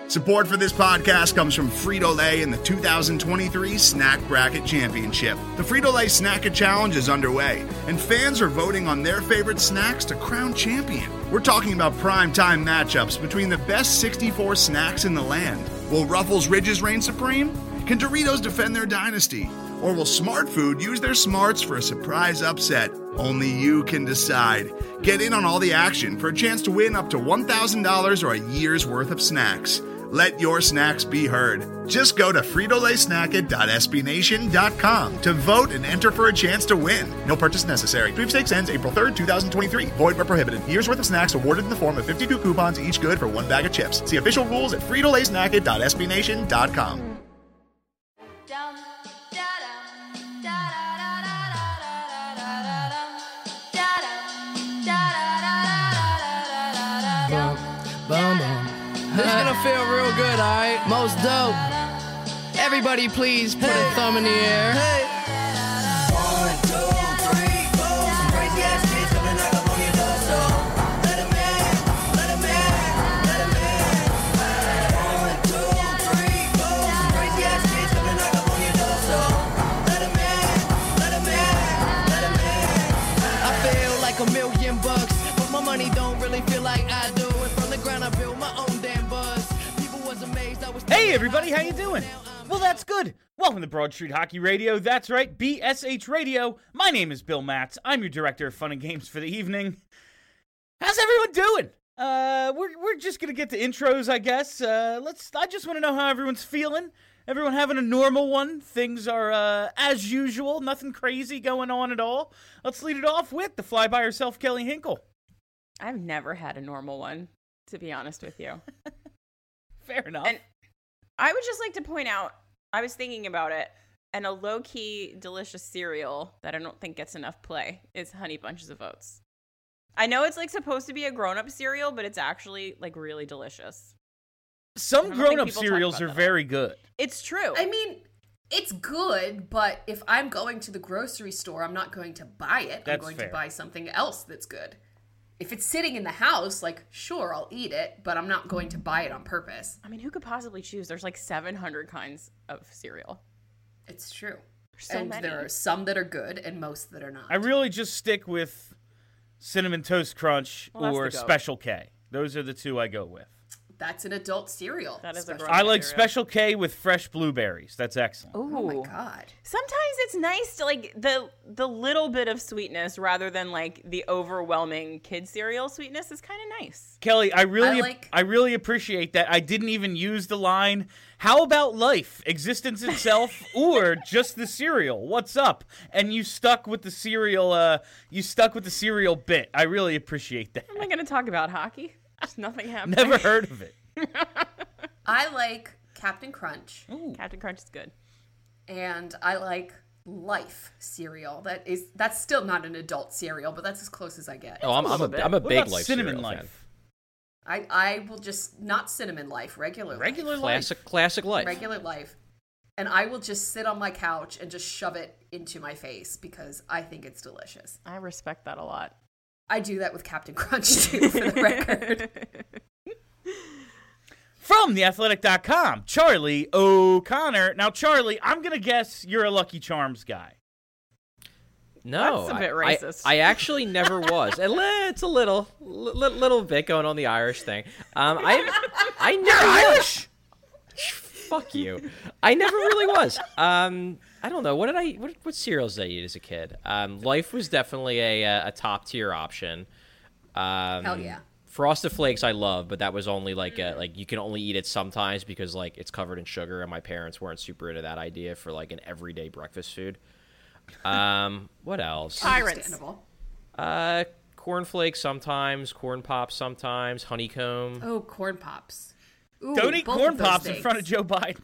Support for this podcast comes from Frito-Lay and the 2023 Snack Bracket Championship. The Frito-Lay Snack-It Challenge is underway, and fans are voting on their favorite snacks to crown champion. We're talking about prime-time matchups between the best 64 snacks in the land. Will Ruffles Ridges reign supreme? Can Doritos defend their dynasty? Or will Smart Food use their smarts for a surprise upset? Only you can decide. Get in on all the action for a chance to win up to $1,000 or a year's worth of snacks. Let your snacks be heard. Just go to fritolaysnacket.sbnation.com to vote and enter for a chance to win. No purchase necessary. Sweepstakes ends April 3rd, 2023. Void where prohibited. Year's worth of snacks awarded in the form of 52 coupons, each good for one bag of chips. See official rules at fritolaysnacket.sbnation.com. This is gonna feel real good, alright? Most dope. Everybody please put a thumb in the air. Hey. 1, 2, 3, 4. Some crazy ass kids coming knock up on your door, so let 'em in, let 'em in, let 'em in. 1, 2, 3, 4. Some crazy ass kids coming knock up on your door, so let 'em in, let 'em in, let 'em in. I feel like $1,000,000, but my money don't really feel like I do. And from the ground I build my own damn buzz. People was amazed I was. Hey everybody, how you doing? Well, that's good. Welcome to Broad Street Hockey Radio. That's right, BSH Radio. My name is Bill Matz. I'm your director of fun and games for the evening. How's everyone doing? We're just gonna get to intros, I guess. I just want to know how everyone's feeling. Everyone having a normal one? Things are as usual. Nothing crazy going on at all. Let's lead it off with the fly by herself, Kelly Hinkle. I've never had a normal one, to be honest with you. Fair enough. And I would just like to point out, I was thinking about it, and a low-key delicious cereal that I don't think gets enough play is Honey Bunches of Oats. I know it's like supposed to be a grown-up cereal, but it's actually like really delicious. Some grown-up cereals are very good. It's true. I mean, it's good, but if I'm going to the grocery store, I'm not going to buy it. That's I'm going fair. to buy something else that's good. If it's sitting in the house, like, sure, I'll eat it, but I'm not going to buy it on purpose. I mean, who could possibly choose? There's like 700 kinds of cereal. It's true. So and many. there are some that are good and most that are not. I really just stick with Cinnamon Toast Crunch Well, that's or the goat. Special K. Those are the two I go with. That's an adult cereal. That is a Special- grown- I like cereal. Special K with fresh blueberries. That's excellent. Ooh. Oh my God. Sometimes it's nice to like the little bit of sweetness rather than like the overwhelming kid cereal sweetness is kind of nice. Kelly, I like- really appreciate that. I didn't even use the line, how about life, existence itself, or just the cereal? What's up? And you stuck with the cereal bit. I really appreciate that. Am I going to talk about hockey? Just nothing happened. Never heard of it. I like Captain Crunch, Captain Crunch is good. and I like Life cereal. That's still not an adult cereal, but that's as close as I get. Oh, I'm a What big about Life Cinnamon cereal fan. Life? I will just, not Cinnamon Life, regular Regular Life. Life. Classic Life. Regular Life. And I will just sit on my couch and just shove it into my face because I think it's delicious. I respect that a lot. I do that with Captain Crunch too, for the record. From theathletic.com, Charlie O'Connor. Now, Charlie, I'm going to guess you're a Lucky Charms guy. No, That's a bit racist. I actually never was. It's a little bit going on the Irish thing. I never Irish. Fuck you. I never really was. I don't know. What cereals did I eat as a kid? Life was definitely a top tier option. Hell yeah. Frosted Flakes I love, but that was only like you can only eat it sometimes because like it's covered in sugar, and my parents weren't super into that idea for like an everyday breakfast food. What else? Tyrants. Understandable. Corn Flakes sometimes, corn pops sometimes, honeycomb. Oh, corn pops. Ooh, Don't eat both corn of those pops in things. front of Joe Biden.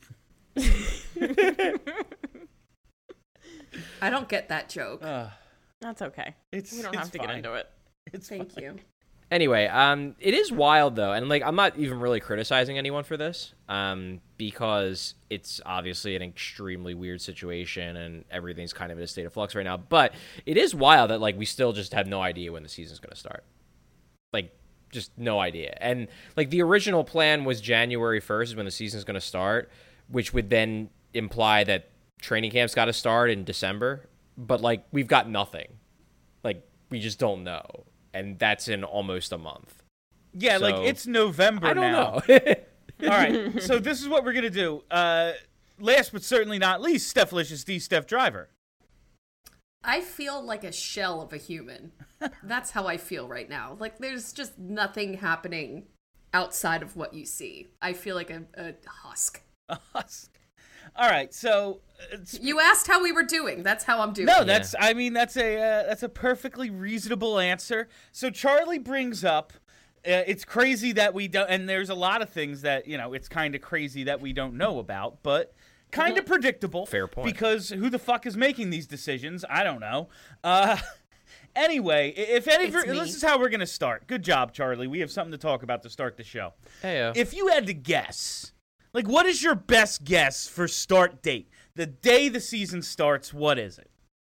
I don't get that joke. That's okay. It's We don't it's have to get fine. into it. It's Thank fine. you. Anyway, it is wild though, and like I'm not even really criticizing anyone for this, because it's obviously an extremely weird situation and everything's kind of in a state of flux right now. But it is wild that like we still just have no idea when the season's going to start. Like just no idea. And like the original plan was January 1st is when the season's going to start, which would then imply that training camp's got to start in December. But like we've got nothing. Like we just don't know. And that's in almost a month. Yeah, So, like it's November I don't now. know. All right, so this is what we're going to do. Last but certainly not least, Stephalicious D. Steph Driver. I feel like a shell of a human. That's how I feel right now. Like there's just nothing happening outside of what you see. I feel like a husk. A husk. All right, so You asked how we were doing. That's how I'm doing. no, that's a perfectly reasonable answer. So Charlie brings up, it's crazy that we don't, and there's a lot of things that it's kind of crazy that we don't know about, but kind of predictable. Fair point. Because who the fuck is making these decisions? I don't know. Anyway, if any, It's me. this is how we're gonna start. Good job, Charlie. We have something to talk about to start the show. Heyo. If you had to guess, like, what is your best guess for start date? The day the season starts, what is it?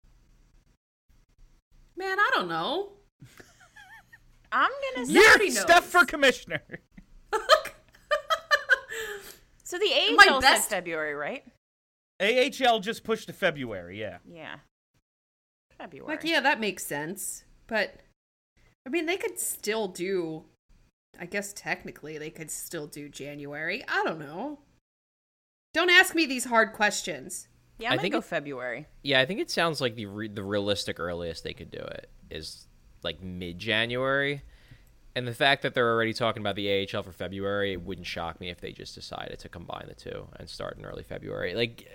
Man, I don't know. I'm gonna say. You already Yeah, knows. Steph for commissioner. So the My AHL said best- February, right? AHL just pushed to February, yeah. Yeah. February. Like, yeah, that makes sense. But, I mean, they could still do, I guess technically they could still do January. I don't know. Don't ask me these hard questions. Yeah, I I'm gonna think go it- February. Yeah, I think it sounds like the realistic earliest they could do it is like mid-January. And the fact that they're already talking about the AHL for February, it wouldn't shock me if they just decided to combine the two and start in early February. Like,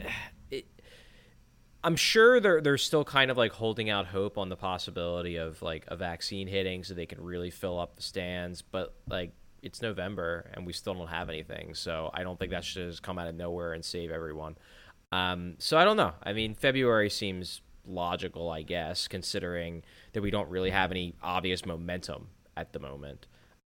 I'm sure they're still kind of like holding out hope on the possibility of like a vaccine hitting so they can really fill up the stands. But like, it's November and we still don't have anything. So I don't think that should just come out of nowhere and save everyone. So I don't know. I mean, February seems logical, I guess, considering that we don't really have any obvious momentum at the moment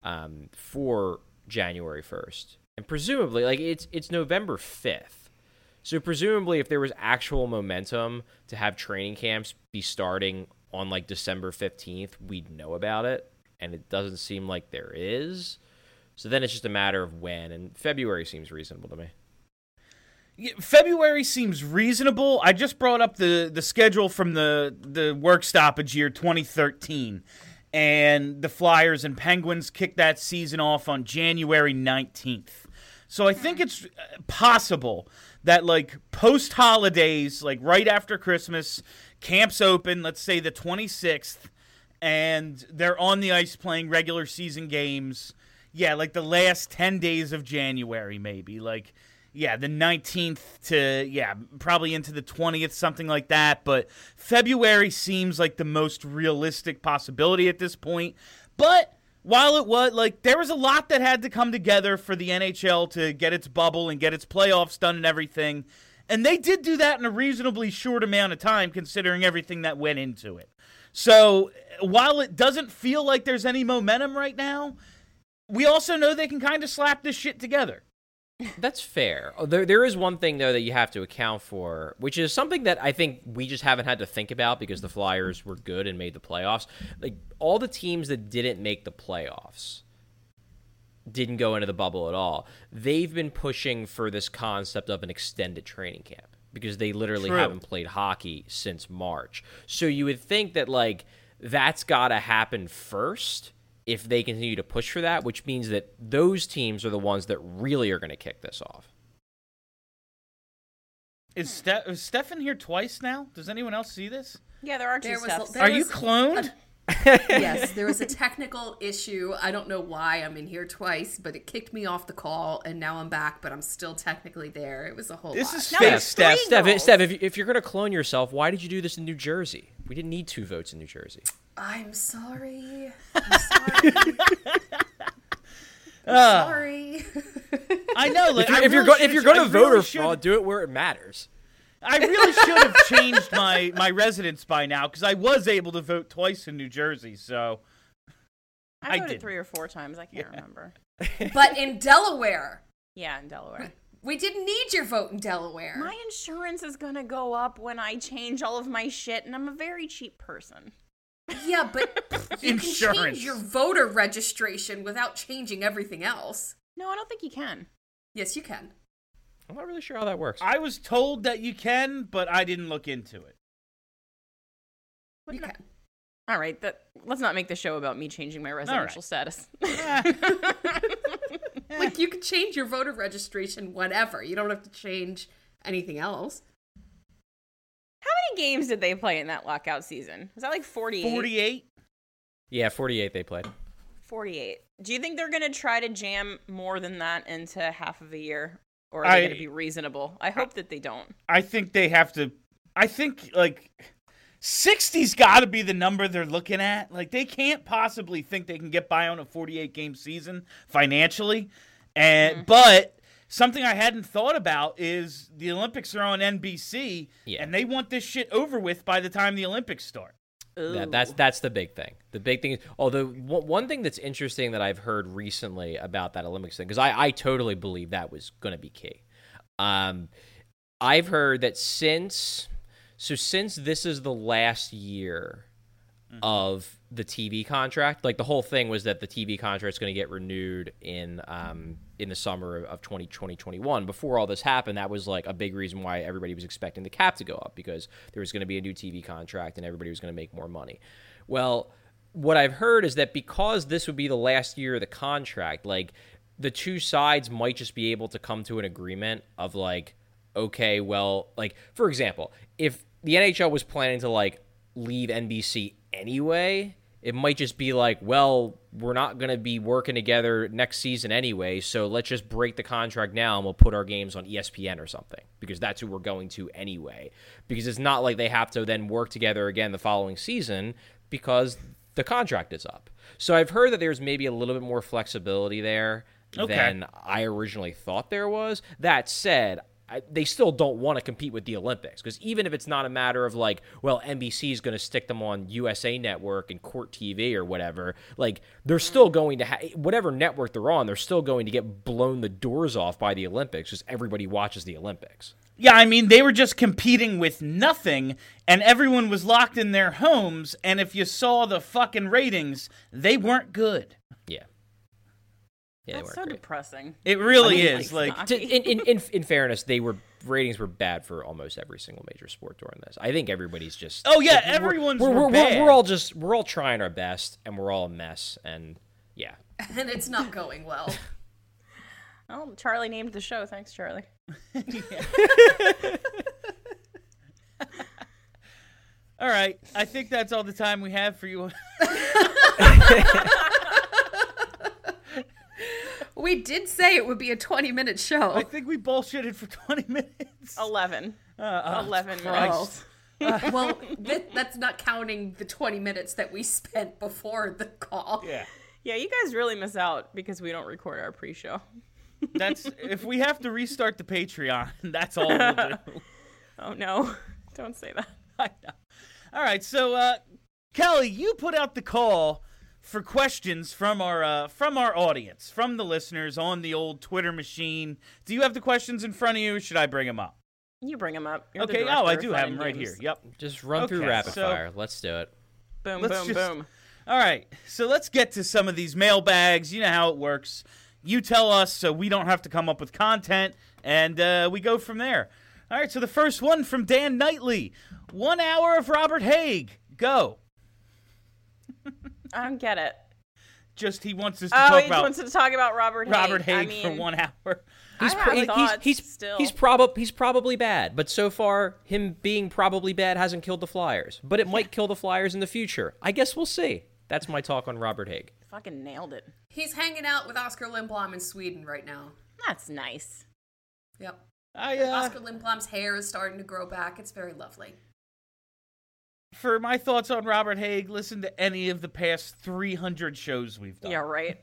for January 1st. And presumably, like, it's November 5th. So presumably, if there was actual momentum to have training camps be starting on, like, December 15th, we'd know about it. And it doesn't seem like there is. So then it's just a matter of when. And February seems reasonable to me. Yeah, February seems reasonable. I just brought up the schedule from the work stoppage year 2013. And the Flyers and Penguins kicked that season off on January 19th. So I think it's possible that, like, post-holidays, like right after Christmas, camps open, let's say the 26th, and they're on the ice playing regular season games. Yeah, like the last 10 days of January, maybe. Like, yeah, the 19th to, yeah, probably into the 20th, something like that. But February seems like the most realistic possibility at this point. But while it was, like, there was a lot that had to come together for the NHL to get its bubble and get its playoffs done and everything. And they did do that in a reasonably short amount of time, considering everything that went into it. So while it doesn't feel like there's any momentum right now, we also know they can kind of slap this shit together. That's fair. There is one thing, though, that you have to account for, which is something that I think we just haven't had to think about because the Flyers were good and made the playoffs. Like, all the teams that didn't make the playoffs didn't go into the bubble at all. They've been pushing for this concept of an extended training camp because they literally True. haven't played hockey since March. So you would think that, like, that's got to happen first if they continue to push for that, which means that those teams are the ones that really are going to kick this off. Is Stefan here twice now? Does anyone else see this? Yeah, there are two There was steps. there Are you was cloned? Yes, there was a technical issue. I don't know why I'm in here twice, but it kicked me off the call, and now I'm back, but I'm still technically there. It was a whole This lot. is No, fake it's Steph. three Steph, goals. Steph, if you're going to clone yourself, why did you do this in New Jersey? We didn't need 2 votes in New Jersey. I'm sorry. I'm sorry. Sorry. I know. Like, If you're going to vote or fraud, do it where it matters. I really should have changed my residence by now because I was able to vote twice in New Jersey. So I I voted didn't. 3 or 4 times. I can't remember. But in Delaware, Yeah, in Delaware. we didn't need your vote in Delaware. My insurance is gonna go up when I change all of my shit, and I'm a very cheap person. Yeah, but you can Insurance. change your voter registration without changing everything else. No, I don't think you can. Yes, you can. I'm not really sure how that works. I was told that you can, but I didn't look into it. You can. All right, let's not make the show about me changing my residential status. Like, you can change your voter registration whenever. You don't have to change anything else. How many games did they play in that lockout season? Was that like 48? 48? Yeah, 48 they played. 48. Do you think they're going to try to jam more than that into half of a year? Or are they going to be reasonable? I hope that they don't. I think they have to. I think, like, 60's got to be the number they're looking at. Like, they can't possibly think they can get by on a 48-game season financially. And But something I hadn't thought about is the Olympics are on NBC, and they want this shit over with by the time the Olympics start. Yeah, that's the big thing. The big thing is, although one thing that's interesting that I've heard recently about that Olympics thing, because I totally believe that was going to be key. I've heard that since this is the last year of the TV contract, like the whole thing was that the TV contract is going to get renewed in the summer of 2021. Before all this happened, that was like a big reason why everybody was expecting the cap to go up, because there was going to be a new TV contract and everybody was going to make more money. Well, what I've heard is that because this would be the last year of the contract, like the two sides might just be able to come to an agreement of like, okay, well, like for example, if the NHL was planning to like leave NBC anyway, it might just be like, well, we're not going to be working together next season anyway, so let's just break the contract now and we'll put our games on ESPN or something, because that's who we're going to anyway. Because it's not like they have to then work together again the following season because the contract is up. So I've heard that there's maybe a little bit more flexibility there than I originally thought there was. That said, they still don't want to compete with the Olympics, because even if it's not a matter of like, well, NBC is going to stick them on USA Network and Court TV or whatever, like they're still going to whatever network they're on, they're still going to get blown the doors off by the Olympics, because everybody watches the Olympics. Yeah, I mean, they were just competing with nothing, and everyone was locked in their homes, and if you saw the fucking ratings, they weren't good. Yeah. Yeah, That's so depressing. It really is. Like, in fairness, ratings were bad for almost every single major sport during this. I think everybody's just. Oh yeah, everyone's bad. We're all trying our best, and we're all a mess, and yeah. And it's not going well. Oh, Charlie named the show. Thanks, Charlie. All right, I think that's all the time we have for you. We did say it would be a 20-minute show. I think we bullshitted for 20 minutes. 11. 11 Christ. minutes. Well, that's not counting the 20 minutes that we spent before the call. Yeah. Yeah, you guys really miss out because we don't record our pre-show. That's if we have to restart the Patreon, that's all we'll do. Oh no, don't say that. I know. All right, so Kelly, you put out the call for questions from our audience, from the listeners on the old Twitter machine. Do you have the questions in front of you, or should I bring them up? You bring them up. You're the Okay, director I of do Fun have and them right Games. here. Yep. Just run through rapid fire. Let's do it. Boom, Let's boom, just- boom. All right, so let's get to some of these mailbags. You know how it works. You tell us so we don't have to come up with content, and we go from there. All right, so the first one from Dan Knightley. 1 hour of Robert Haig. Go. I don't get it. Just he wants us to talk He about wants to talk about Robert Haig. Haig for 1 hour. He's I have thoughts still. He's probably bad, but so far him being probably bad hasn't killed the Flyers. But it might kill the Flyers in the future. I guess we'll see. That's my talk on Robert Haig. Fucking nailed it. He's hanging out with Oscar Lindblom in Sweden right now. That's nice. Yep. Oscar Oscar Lindblom's hair is starting to grow back. It's very lovely. For my thoughts on Robert Haig, listen to any of the past 300 shows we've done. Yeah, right.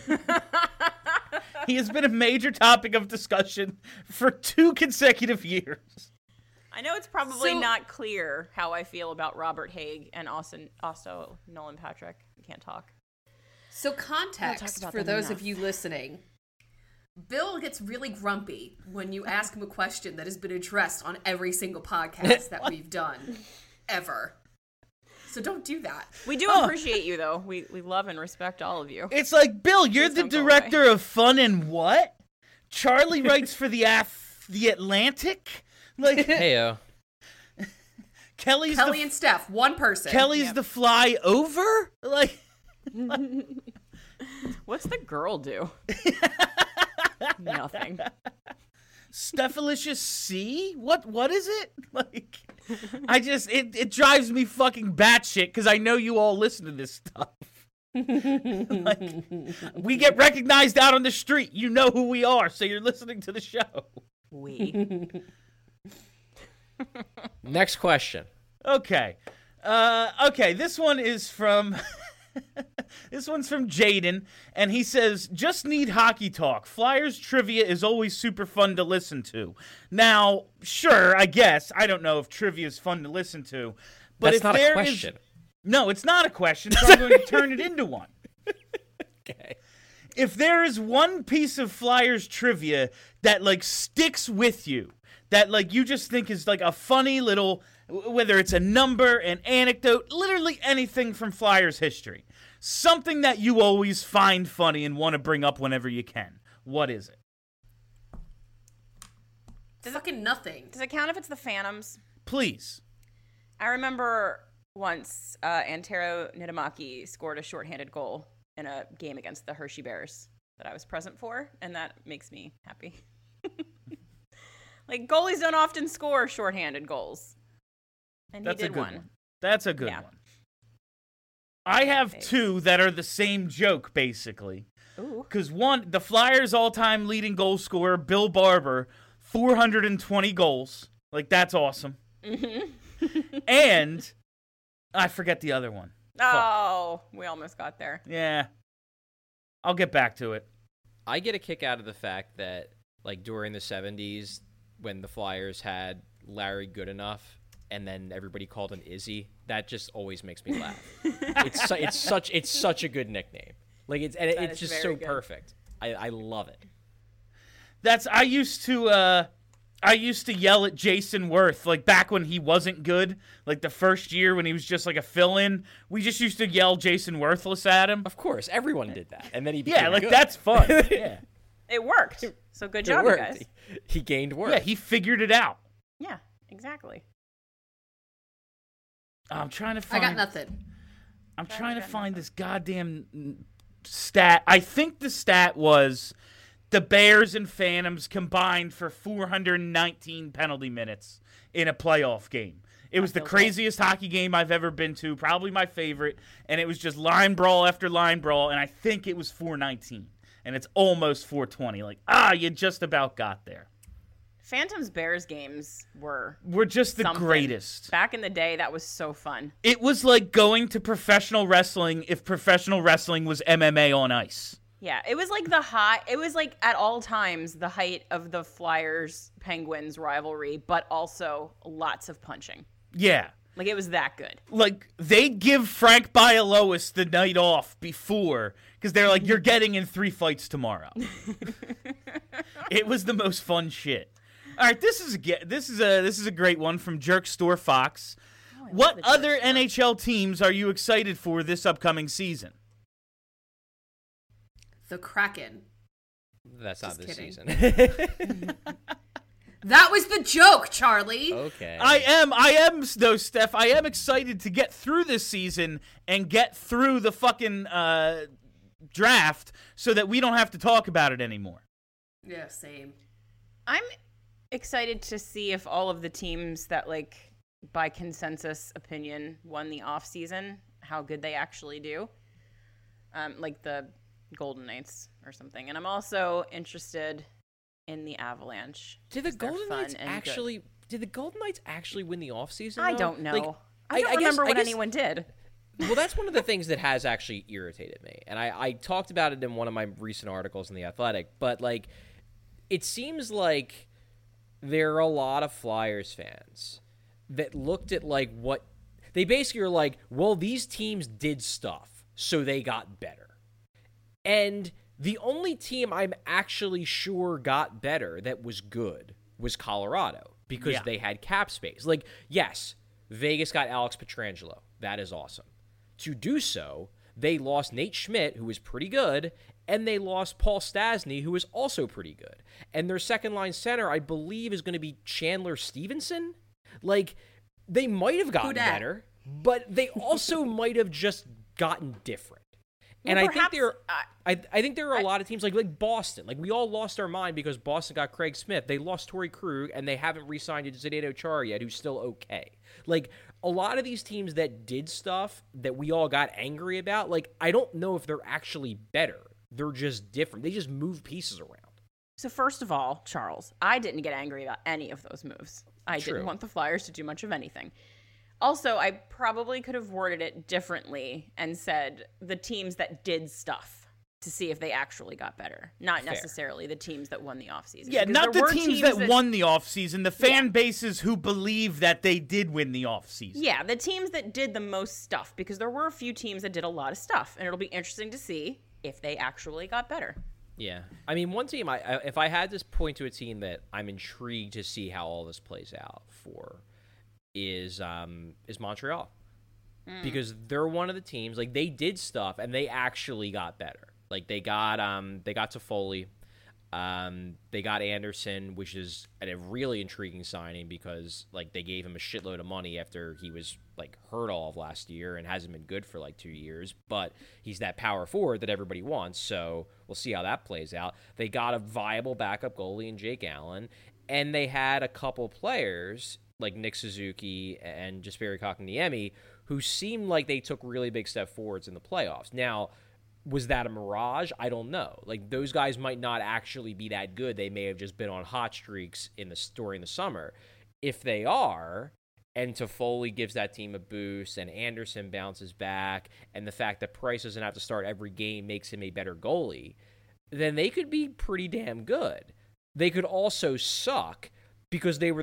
He has been a major topic of discussion for 2 consecutive years. I know it's probably So- not clear how I feel about Robert Haig and also Nolan Patrick. I can't talk. So We'll talk context about for them those enough. of you listening. Bill gets really grumpy when you ask him a question that has been addressed on every single podcast that we've done ever. So don't do that. We do appreciate you, though. We love and respect all of you. It's like, Bill, you're Please the don't go director of fun and what? Charlie writes for the Atlantic? Like, Heyo. Kelly and Steph, one person. Kelly's the fly over? Like, What's the girl do? Nothing. Stephalicious C? What is it? Like, it drives me fucking batshit because I know you all listen to this stuff. Like, we get recognized out on the street. You know who we are, so you're listening to the show. We. Next question. Okay. This one is from this one's from Jaden, and he says, just need hockey talk. Flyers trivia is always super fun to listen to. Now, sure, I guess. I don't know if trivia is fun to listen to. But That's if not a there question. No, it's not a question, so I'm going to turn it into one. Okay. If there is one piece of Flyers trivia that, like, sticks with you, that, like, you just think is, like, a funny little, whether it's a number, an anecdote, literally anything from Flyers history, something that you always find funny and want to bring up whenever you can, what is it? Fucking nothing. Does it count if it's the Phantoms? Please. I remember once Antero Niittymaki scored a shorthanded goal in a game against the Hershey Bears that I was present for, and that makes me happy. Like, goalies don't often score shorthanded goals. And That's he a did good one. That's a good Yeah. one. I have Thanks. two that are the same joke, basically. Ooh. Because one, the Flyers' all-time leading goal scorer, Bill Barber, 420 goals. Like, that's awesome. Mm-hmm. And I forget the other one. Oh, we almost got there. Yeah. I'll get back to it. I get a kick out of the fact that, like, during the 70s, when the Flyers had Larry Goodenough, and then everybody called him Izzy, that just always makes me laugh. It's such a good nickname. Like, it's is just very so good. perfect. I love it. I used to yell at Jason Worth, like, back when he wasn't good, like, the first year when he was just, like, a fill-in. We just used to yell Jason Worthless at him. Of course, everyone did that, and then he became Yeah, like, good. that's fun. Yeah. It worked. So good It job, you worked. guys. He gained work. Yeah, he figured it out. Yeah, exactly. I'm trying to I find... got nothing. I'm trying to find this goddamn stat. I think the stat was the Bears and Phantoms combined for 419 penalty minutes in a playoff game. It was the craziest hockey game I've ever been to, probably my favorite, and it was just line brawl after line brawl, and I think it was 419, and it's almost 420. Like, you just about got there. Phantoms Bears games were We're just the something. greatest. Back in the day, that was so fun. It was like going to professional wrestling if professional wrestling was MMA on ice. Yeah, it was like it was like at all times the height of the Flyers Penguins rivalry, but also lots of punching. Yeah. Like, it was that good. Like, they'd give Frank Bialowas the night off before because they're like, you're getting in 3 fights tomorrow. It was the most fun shit. All right, this is a great one from Jerk Store Fox. What other NHL teams are you excited for this upcoming season? The Kraken. That's not Just this kidding. season. That was the joke, Charlie. Okay. I am though, Steph. I am excited to get through this season and get through the fucking draft so that we don't have to talk about it anymore. Yeah, same. I'm excited to see if all of the teams that, like, by consensus opinion won the off season, how good they actually do. Like the Golden Knights or something. And I'm also interested in the Avalanche. Did the 'cause they're Golden fun Knights and good. actually? Did the Golden Knights actually win the offseason? I though? don't know. Like, I don't remember what anyone did. Well, that's one of the things that has actually irritated me, and I talked about it in one of my recent articles in The Athletic. But, like, it seems like there are a lot of Flyers fans that looked at, like, what they basically are like, well, these teams did stuff, so they got better. And the only team I'm actually sure got better that was good was Colorado because they had cap space. Like, yes, Vegas got Alex Petrangelo. That is awesome. To do so, they lost Nate Schmidt, who was pretty good, and they lost Paul Stasny, who was also pretty good. And their second-line center, I believe, is going to be Chandler Stevenson. Like, they might have gotten better, but they also might have just gotten different. And I think there are a lot of teams like Boston. Like, we all lost our mind because Boston got Craig Smith. They lost Torrey Krug, and they haven't re-signed Zdeno Chara yet, who's still okay. Like, a lot of these teams that did stuff that we all got angry about, like, I don't know if they're actually better. They're just different. They just move pieces around. So first of all, Charles, I didn't get angry about any of those moves. I True. didn't want the Flyers to do much of anything. Also, I probably could have worded it differently and said the teams that did stuff to see if they actually got better, not necessarily the teams that won the offseason. Yeah, Because not there the were teams that won the offseason, the fan bases who believe that they did win the offseason. Yeah, the teams that did the most stuff, because there were a few teams that did a lot of stuff, and it'll be interesting to see if they actually got better. Yeah. I mean, one team, if I had to point to a team that I'm intrigued to see how all this plays out for is Montreal. Because they're one of the teams, like, they did stuff and they actually got better. Like, they got Toffoli, they got Anderson, which is a really intriguing signing because, like, they gave him a shitload of money after he was, like, hurt all of last year and hasn't been good for like 2 years, but he's that power forward that everybody wants, so we'll see how that plays out. They got a viable backup goalie in Jake Allen, and they had a couple players like Nick Suzuki and Jesperi Kotkaniemi who seemed like they took really big step forwards in the playoffs. Now, was that a mirage? I don't know. Like, those guys might not actually be that good. They may have just been on hot streaks during the summer. If they are, and Toffoli gives that team a boost, and Anderson bounces back, and the fact that Price doesn't have to start every game makes him a better goalie, then they could be pretty damn good. They could also suck because they were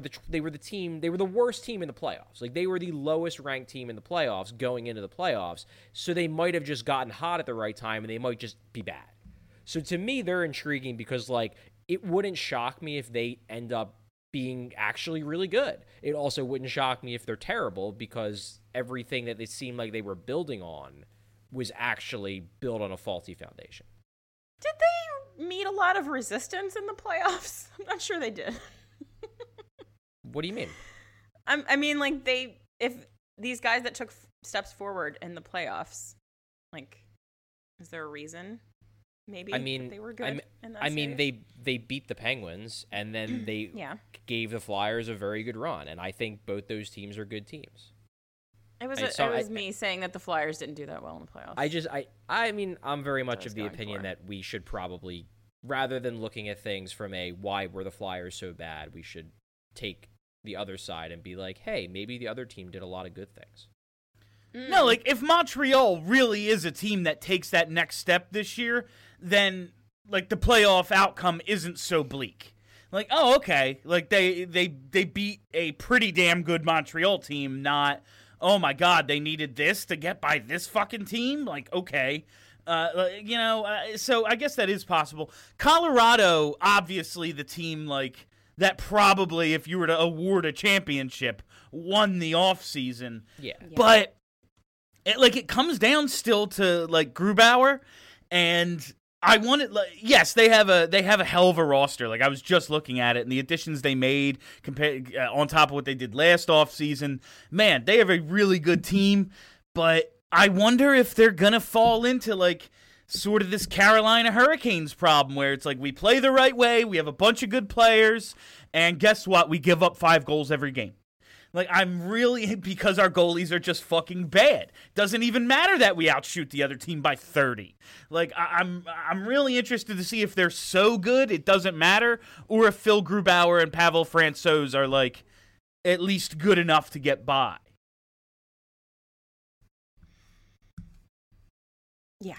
the worst team in the playoffs. Like, they were the lowest ranked team in the playoffs going into the playoffs, so they might have just gotten hot at the right time, and they might just be bad. So to me, they're intriguing because, like, it wouldn't shock me if they end up being actually really good. It also wouldn't shock me if they're terrible because everything that they seemed like they were building on was actually built on a faulty foundation. Did they meet a lot of resistance in the playoffs? I'm not sure they did. What do you mean? I mean, like, if these guys that took steps forward in the playoffs, like, is there a reason? Maybe that they were good in that series? they beat the Penguins, and then they gave the Flyers a very good run, and I think both those teams are good teams. It was me saying that the Flyers didn't do that well in the playoffs. I mean, I'm very much of the opinion that we should probably, rather than looking at things from a why were the Flyers so bad, we should take the other side and be like, hey, maybe the other team did a lot of good things. No, like, if Montreal really is a team that takes that next step this year, then, like, the playoff outcome isn't so bleak. Like, oh, okay, like, they beat a pretty damn good Montreal team, not, oh my god, they needed this to get by this fucking team? Like, okay. So I guess that is possible. Colorado, obviously the team, like, that probably, if you were to award a championship, won the offseason. Yeah. But it comes down still to, like, Grubauer, and I wanted, like, yes, they have a hell of a roster. Like, I was just looking at it, and the additions they made compared on top of what they did last offseason, man, they have a really good team. But I wonder if they're gonna fall into, like, sort of this Carolina Hurricanes problem where it's like we play the right way, we have a bunch of good players, and guess what? We give up 5 goals every game. Like, I'm really, because our goalies are just fucking bad. Doesn't even matter that we outshoot the other team by 30. Like, I'm really interested to see if they're so good it doesn't matter, or if Phil Grubauer and Pavel Francouz are, like, at least good enough to get by. Yeah.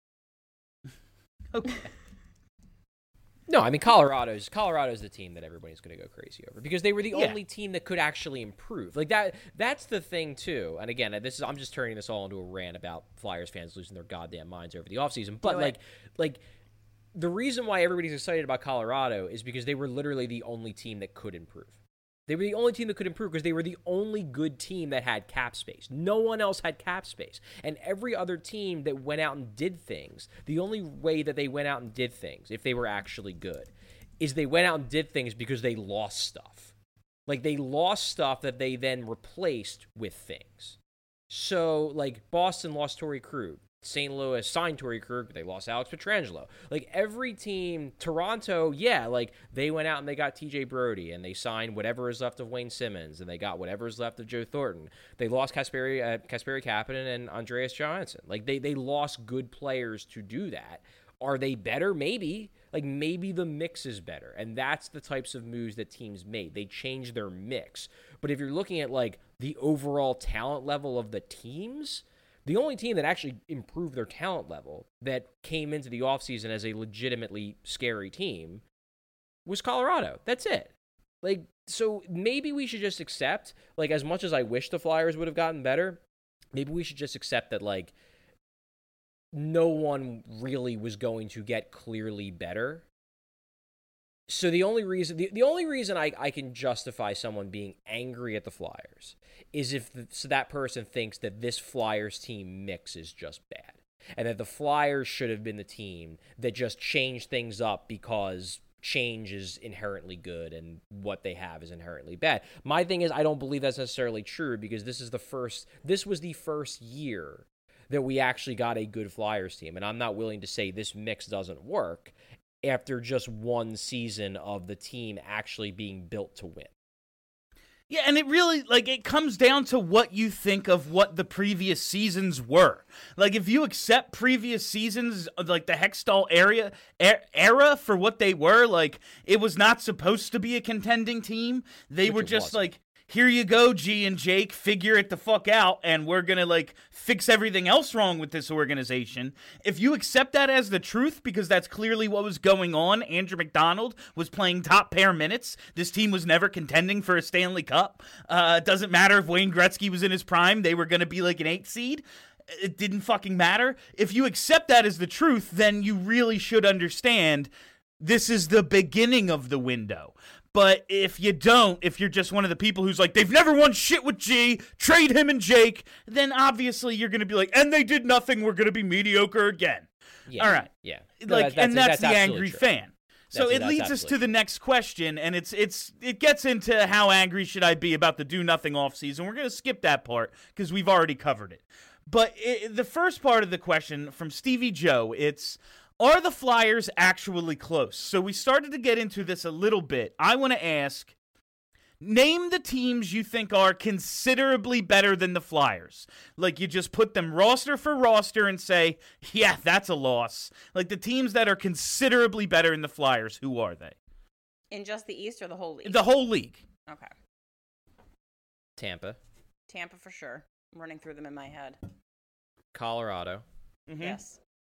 Okay. No, I mean, Colorado's the team that everybody's going to go crazy over because they were the only team that could actually improve. Like, that's the thing too. And again, I'm just turning this all into a rant about Flyers fans losing their goddamn minds over the offseason. But like the reason why everybody's excited about Colorado is because they were literally the only team that could improve. They were the only team that could improve because they were the only good team that had cap space. No one else had cap space. And every other team that went out and did things, the only way that they went out and did things, if they were actually good, is they went out and did things because they lost stuff. Like, they lost stuff that they then replaced with things. So, like, Boston lost Torrey Krug. St. Louis signed Torrey Krug, but they lost Alex Pietrangelo. Like, every team, Toronto, yeah, like, they went out and they got TJ Brody, and they signed whatever is left of Wayne Simmons, and they got whatever is left of Joe Thornton. They lost Kasperi Kapanen and Andreas Johansson. Like, they lost good players to do that. Are they better? Maybe. Like, maybe the mix is better, and that's the types of moves that teams made. They changed their mix. But if you're looking at, like, the overall talent level of the teams, the only team that actually improved their talent level that came into the offseason as a legitimately scary team was Colorado. That's it. Like, so maybe we should just accept, like, as much as I wish the Flyers would have gotten better, maybe we should just accept that, like, no one really was going to get clearly better. So the only reason I can justify someone being angry at the Flyers is if that person thinks that this Flyers team mix is just bad, and that the Flyers should have been the team that just changed things up because change is inherently good and what they have is inherently bad. My thing is, I don't believe that's necessarily true, because this was the first year that we actually got a good Flyers team, and I'm not willing to say this mix doesn't work after just one season of the team actually being built to win. Yeah, and it really, like, it comes down to what you think of what the previous seasons were. Like, if you accept previous seasons, like the Hextall era for what they were, like, it was not supposed to be a contending team. They were just like, here you go, G and Jake, figure it the fuck out, and we're gonna, like, fix everything else wrong with this organization. If you accept that as the truth, because that's clearly what was going on, Andrew McDonald was playing top pair minutes. This team was never contending for a Stanley Cup. It doesn't matter if Wayne Gretzky was in his prime. They were gonna be like an 8 seed. It didn't fucking matter. If you accept that as the truth, then you really should understand this is the beginning of the window. But if you don't, if you're just one of the people who's like, they've never won shit with G, trade him and Jake, then obviously you're going to be like, and they did nothing, we're going to be mediocre again. Yeah, all right. Yeah. Like, and that's the angry fan. So it leads us to the next question, and it gets into how angry should I be about the do-nothing offseason. We're going to skip that part because we've already covered it. But the first part of the question from Stevie Joe, it's, are the Flyers actually close? So we started to get into this a little bit. I want to ask, name the teams you think are considerably better than the Flyers. Like, you just put them roster for roster and say, yeah, that's a loss. Like, the teams that are considerably better than the Flyers, who are they? In just the East or the whole league? The whole league. Okay. Tampa for sure. I'm running through them in my head. Colorado. Mm-hmm. Yes.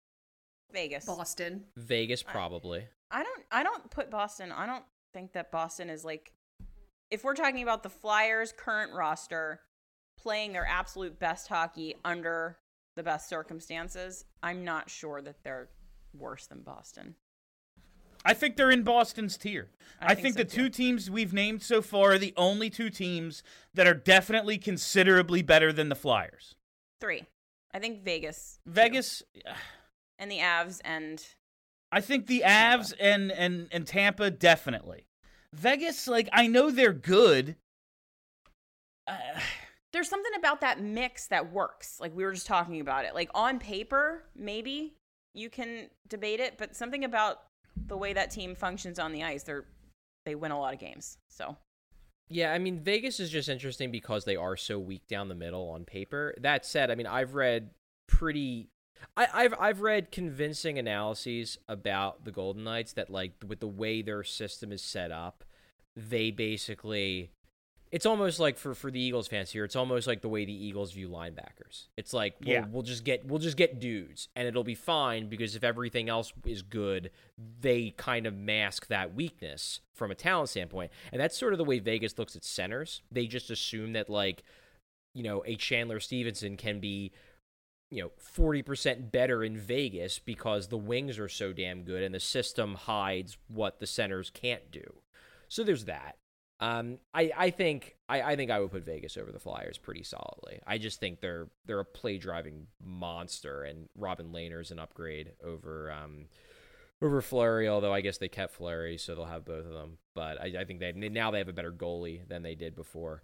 Vegas Probably. I don't put Boston. I don't think that Boston is, like, if we're talking about the Flyers' current roster playing their absolute best hockey under the best circumstances, I'm not sure that they're worse than Boston. I think they're in Boston's tier. I think so, the too. two teams we've named so far are the only two teams that are definitely considerably better than the Flyers. 3. I think Vegas. Vegas. And the Avs and I think the Avs and Tampa, definitely. Vegas, like, I know they're good. There's something about that mix that works. Like, we were just talking about it. Like, on paper, maybe you can debate it, but something about the way that team functions on the ice, they win a lot of games. So, yeah, I mean, Vegas is just interesting because they are so weak down the middle on paper. That said, I mean, I've read convincing analyses about the Golden Knights that, like, with the way their system is set up, they basically, it's almost like for the Eagles fans here, it's almost like the way the Eagles view linebackers. It's like, we'll just get dudes and it'll be fine, because if everything else is good, they kind of mask that weakness from a talent standpoint. And that's sort of the way Vegas looks at centers. They just assume that, like, you know, a Chandler Stevenson can be, you know, 40% better in Vegas because the wings are so damn good and the system hides what the centers can't do. So there's that. I think I would put Vegas over the Flyers pretty solidly. I just think they're a play driving monster, and Robin Lehner's an upgrade over Fleury. Although I guess they kept Fleury, so they'll have both of them. But I think they have a better goalie than they did before.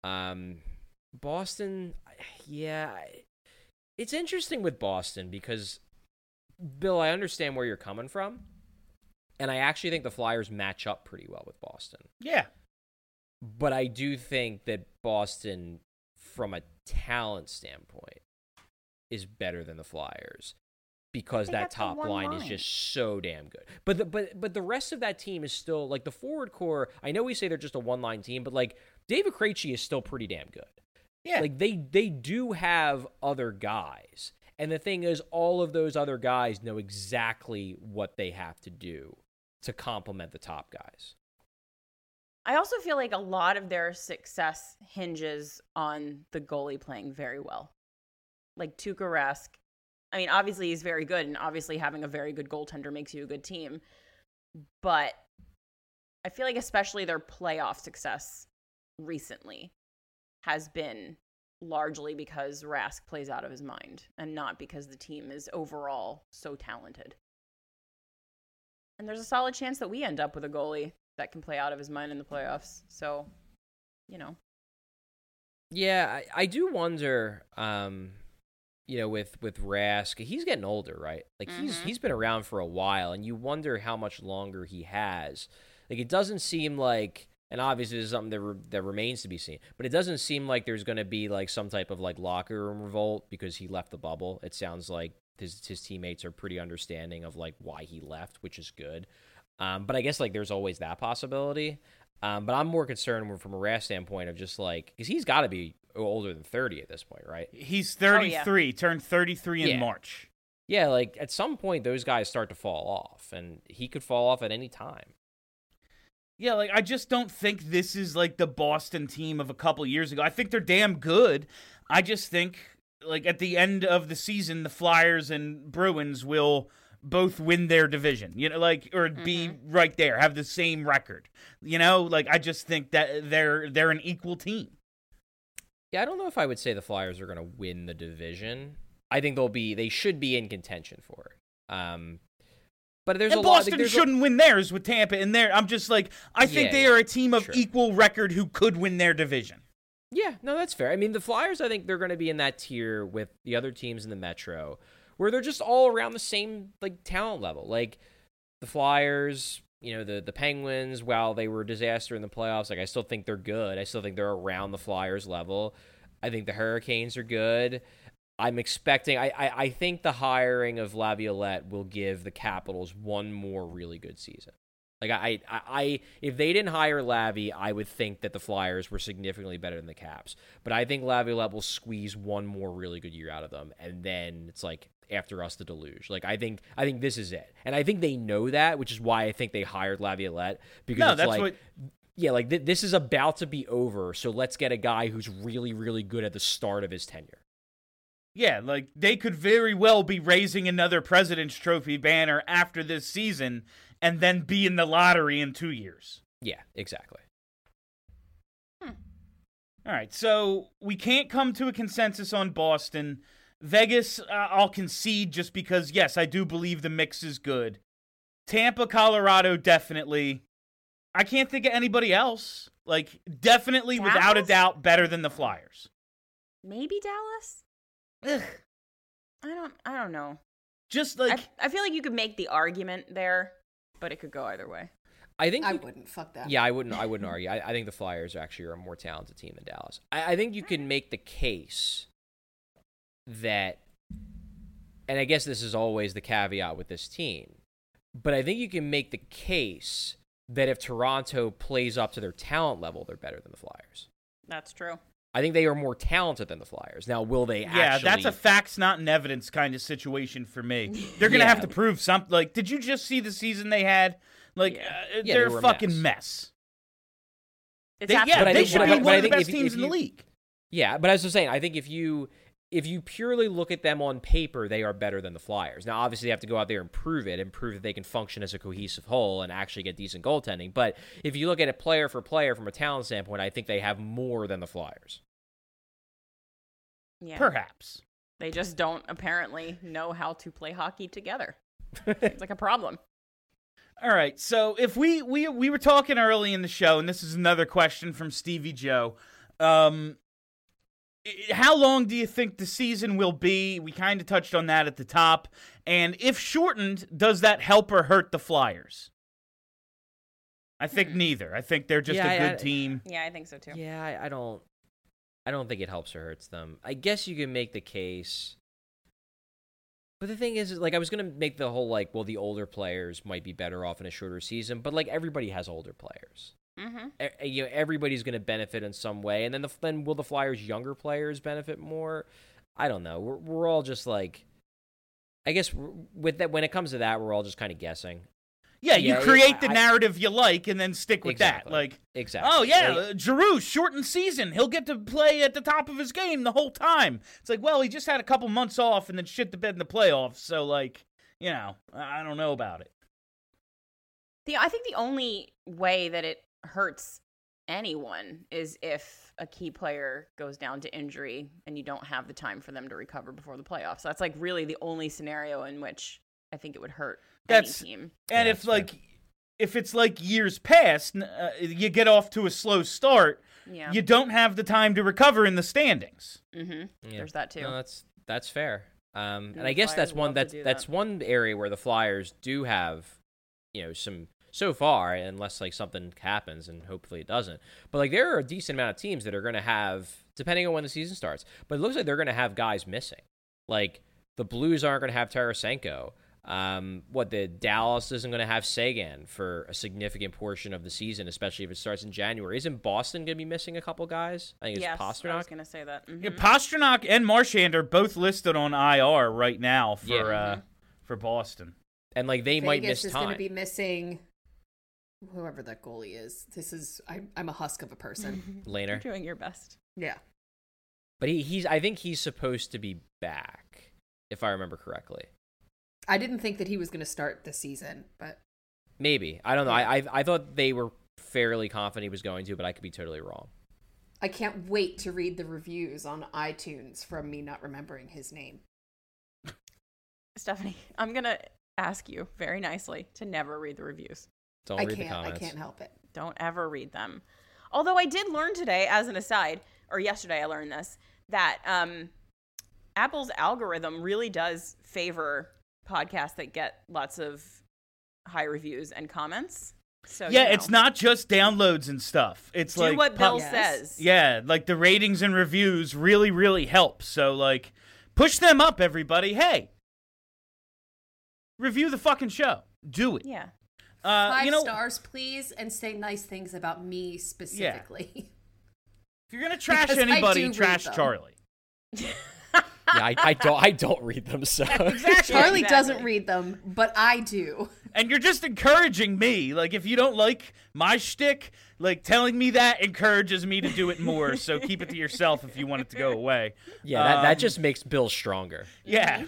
Boston, yeah, it's interesting with Boston because, Bill, I understand where you're coming from, and I actually think the Flyers match up pretty well with Boston. Yeah. But I do think that Boston, from a talent standpoint, is better than the Flyers because They that got the top one line is line. just so damn good. But the rest of that team is still, like, the forward core, I know we say they're just a one-line team, but, like, David Krejci is still pretty damn good. Yeah. Like, they do have other guys. And the thing is, all of those other guys know exactly what they have to do to complement the top guys. I also feel like a lot of their success hinges on the goalie playing very well. Like Tuukka Rask. I mean, obviously he's very good, and obviously having a very good goaltender makes you a good team. But I feel like especially their playoff success recently has been largely because Rask plays out of his mind and not because the team is overall so talented. And there's a solid chance that we end up with a goalie that can play out of his mind in the playoffs. So, you know. Yeah, I do wonder, with Rask, he's getting older, right? Like, he's been around for a while, and you wonder how much longer he has. Like, it doesn't seem like, and obviously this is something that remains to be seen, but it doesn't seem like there's going to be, like, some type of, like, locker room revolt because he left the bubble. It sounds like his teammates are pretty understanding of, like, why he left, which is good. But I guess, like, there's always that possibility. But I'm more concerned from a Rask standpoint of just, like, because he's got to be older than 30 at this point, right? He's 33, turned 33 in March. Yeah, like, at some point, those guys start to fall off, and he could fall off at any time. Yeah, like, I just don't think this is, like, the Boston team of a couple years ago. I think they're damn good. I just think, like, at the end of the season, the Flyers and Bruins will both win their division, like, or be right there, have the same record, like, I just think that they're an equal team. Yeah, I don't know if I would say the Flyers are going to win the division. I think they should be in contention for it. But there's and a lot. Boston shouldn't win theirs with Tampa in there. I'm just like, I think they are a team of equal record who could win their division. Yeah, no, that's fair. I mean, the Flyers, I think they're going to be in that tier with the other teams in the Metro, where they're just all around the same, like, talent level. Like, the Flyers, the Penguins, while they were a disaster in the playoffs, like, I still think they're good. I still think they're around the Flyers level. I think the Hurricanes are good. I'm expecting, I think the hiring of Laviolette will give the Capitals one more really good season. Like, I if they didn't hire Lavi, I would think that the Flyers were significantly better than the Caps. But I think Laviolette will squeeze one more really good year out of them, and then it's like, after us, the deluge. Like, I think this is it. And I think they know that, which is why I think they hired Laviolette. Because this is about to be over, so let's get a guy who's really, really good at the start of his tenure. Yeah, like, they could very well be raising another President's Trophy banner after this season and then be in the lottery in 2 years. Yeah, exactly. All right, so we can't come to a consensus on Boston. Vegas, I'll concede just because, yes, I do believe the mix is good. Tampa, Colorado, definitely. I can't think of anybody else. Like, definitely, Dallas? without a doubt, better than the Flyers. Maybe Dallas? Ugh. I don't know. Just like, I feel like you could make the argument there, but it could go either way. I think I wouldn't. Fuck that. Yeah, I wouldn't argue. I think the Flyers actually are a more talented team than Dallas. I think you can make the case that, and I guess this is always the caveat with this team, but I think you can make the case that if Toronto plays up to their talent level, they're better than the Flyers. That's true. I think they are more talented than the Flyers. Now, will they actually... Yeah, that's a facts, not an evidence kind of situation for me. They're going to have to prove something. Like, did you just see the season they had? Like, they're a fucking mess. It's They should be one of the best teams in the league. Yeah, but as I was saying, I think if you if you purely look at them on paper, they are better than the Flyers. Now, obviously, they have to go out there and prove that they can function as a cohesive whole and actually get decent goaltending. But if you look at it player for player from a talent standpoint, I think they have more than the Flyers. Yeah. Perhaps. They just don't apparently know how to play hockey together. It's like a problem. All right, so if we were talking early in the show, and this is another question from Stevie Joe. How long do you think the season will be? We kind of touched on that at the top. And if shortened, does that help or hurt the Flyers? I think neither. I think they're just a good team. Yeah, I think so too. Yeah, I don't think it helps or hurts them. I guess you can make the case. But the thing is, like, I was going to make the whole, like, well, the older players might be better off in a shorter season, but, like, everybody has older players. Mm-hmm. Everybody's going to benefit in some way, and then will the Flyers' younger players benefit more? I don't know. We're all just, like, I guess with that, when it comes to that, we're all just kind of guessing. Yeah, you create the narrative you like and then stick with that. Like, exactly. Oh, yeah, Giroux, shortened season. He'll get to play at the top of his game the whole time. It's like, well, he just had a couple months off and then shit the bed in the playoffs. So, like, you know, I don't know about it. I think the only way that it hurts anyone is if a key player goes down to injury and you don't have the time for them to recover before the playoffs. That's, like, really the only scenario in which I think it would hurt any team. And if it's like years past, you get off to a slow start, you don't have the time to recover in the standings. Mm-hmm. Yeah. There's that too. No, that's fair. And I guess that's one area where the Flyers do have, you know, some so far, unless like something happens, and hopefully it doesn't. But like there are a decent amount of teams that are going to have, depending on when the season starts. But it looks like they're going to have guys missing. Like the Blues aren't going to have Tarasenko. The Dallas isn't going to have Sagan for a significant portion of the season, especially if it starts in January. Isn't Boston going to be missing a couple guys? I think it's Pastrnak. I was going to say that. Mm-hmm. Yeah, Pastrnak and Marchand are both listed on IR right now for Boston, and like they might miss Vegas time. is going to be missing whoever that goalie is. I'm a husk of a person. Lehner. You're doing your best. Yeah, but I think he's supposed to be back, if I remember correctly. I didn't think that he was going to start the season, but maybe. I don't know. I thought they were fairly confident he was going to, but I could be totally wrong. I can't wait to read the reviews on iTunes from me not remembering his name. Stephanie, I'm going to ask you very nicely to never read the reviews. Don't read the comments. I can't help it. Don't ever read them. Although I did learn today, as an aside, or yesterday I learned this, that Apple's algorithm really does favor podcasts that get lots of high reviews and comments. So it's not just downloads and stuff. It's do like what Bill says. Yeah, like the ratings and reviews really, really help. So like, push them up, everybody. Hey, review the fucking show. Do it. Yeah. 5 stars, please, and say nice things about me specifically. Yeah. If you're gonna trash anybody, trash Charlie. Yeah, I don't read them, so. Exactly. Charlie doesn't read them, but I do. And you're just encouraging me. Like, if you don't like my shtick, like, telling me that encourages me to do it more. So keep it to yourself if you want it to go away. Yeah, that just makes Bill stronger. Yeah.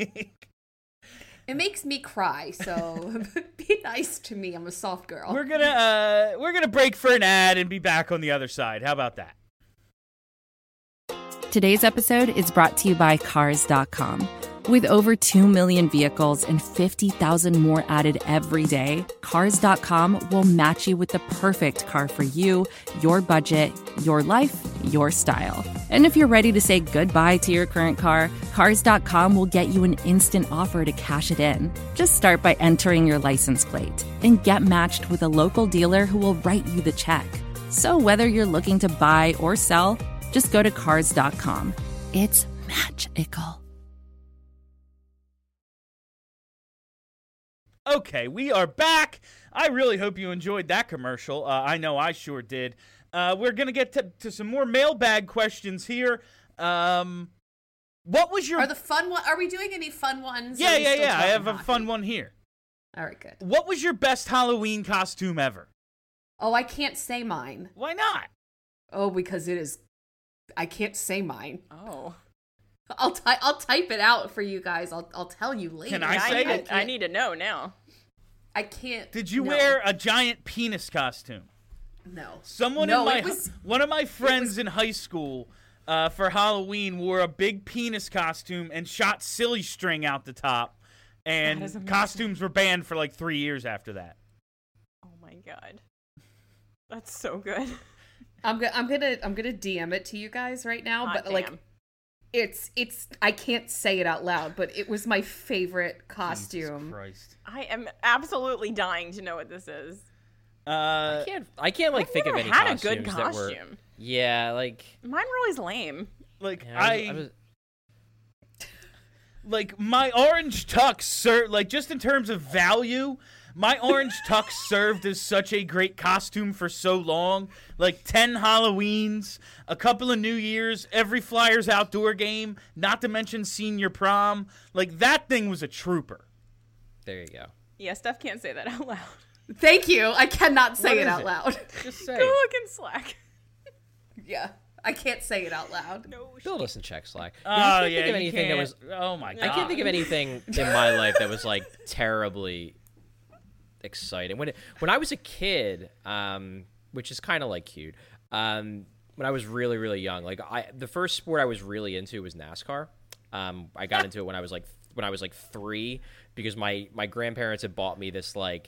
It makes me cry, so be nice to me. I'm a soft girl. We're gonna break for an ad and be back on the other side. How about that? Today's episode is brought to you by Cars.com. With over 2 million vehicles and 50,000 more added every day, Cars.com will match you with the perfect car for you, your budget, your life, your style. And if you're ready to say goodbye to your current car, Cars.com will get you an instant offer to cash it in. Just start by entering your license plate and get matched with a local dealer who will write you the check. So whether you're looking to buy or sell, just go to Cars.com. It's magical. Okay, we are back. I really hope you enjoyed that commercial. I know I sure did. We're going to get to some more mailbag questions here. What was your... Are we doing any fun ones? Yeah. I have a fun one here. All right, good. What was your best Halloween costume ever? Oh, I can't say mine. Why not? Oh, because it is... I can't say mine. Oh. I'll type it out for you guys. I'll tell you later. Can I say it? I need to know now. I can't. Did you no. wear a giant penis costume? No. Someone No, in it was- one of my friends in high school for Halloween wore a big penis costume and shot silly string out the top, That is and amazing. costumes were banned for like 3 years after that. Oh my god, that's so good. I'm gonna DM it to you guys right now, Hot but like damn. it's I can't say it out loud, but it was my favorite Jesus costume. Christ. I am absolutely dying to know what this is. I can't like I've think of never any had a costumes good that were. costume. Yeah, like Mine were always lame. Like yeah, I was- like my orange tux like just in terms of value, my orange tux served as such a great costume for so long. Like 10 Halloweens, a couple of New Years, every Flyers outdoor game, not to mention senior prom. Like that thing was a trooper. there you go. Yeah, Steph can't say that out loud. Thank you. I cannot say What it is out it? loud. Just say. Go look in Slack. Yeah, I can't say it out loud. No, Bill doesn't check Slack. Oh I can't yeah, think of you anything that was. can't- Oh my god. I can't think of anything in my life that was like terribly exciting. When I was a kid, which is kind of like cute. When I was really really young, like the first sport I was really into was NASCAR. I got into it when I was like 3 because my grandparents had bought me this like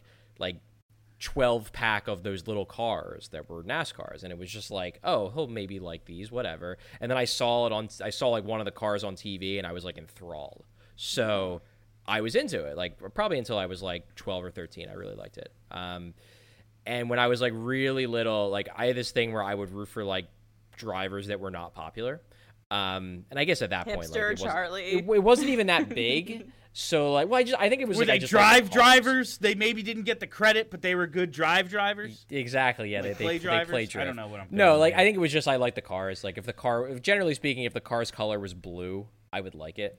12 pack of those little cars that were NASCARs, and it was just like, oh, he'll maybe like these, whatever. And then I saw like one of the cars on TV, and I was like enthralled. So I was into it, like probably until I was like 12 or 13. I really liked it. And when I was like really little, like I had this thing where I would root for like drivers that were not popular. And I guess at that point, like, Hipster it wasn't, Charlie. it wasn't even that big. So like, well, I think it was Were like, I they just liked drive the cars. drivers? They maybe didn't get the credit, but they were good drive drivers. Exactly, yeah. Like they play drivers? play I drift. don't know what I'm No, thinking like here. I think it was just I like the cars. Like generally speaking, if the car's color was blue, I would like it.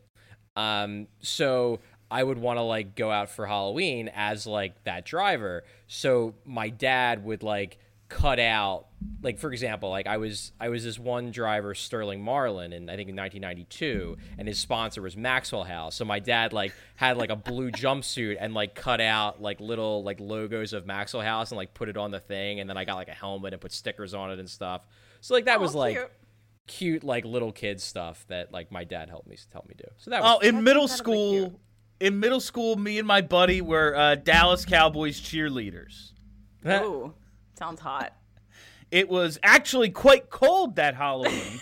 So I would want to like go out for Halloween as like that driver. So my dad would like cut out, like for example, like I was this one driver, Sterling Marlin, and I think in 1992, and his sponsor was Maxwell House. So my dad like had like a blue jumpsuit and like cut out like little like logos of Maxwell House and like put it on the thing, and then I got like a helmet and put stickers on it and stuff. So like that was like cute like little kid stuff that like my dad helped me do. So that was In middle incredibly school, me and my buddy were Dallas Cowboys cheerleaders. Ooh, sounds hot. It was actually quite cold that Halloween.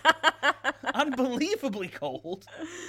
Unbelievably cold.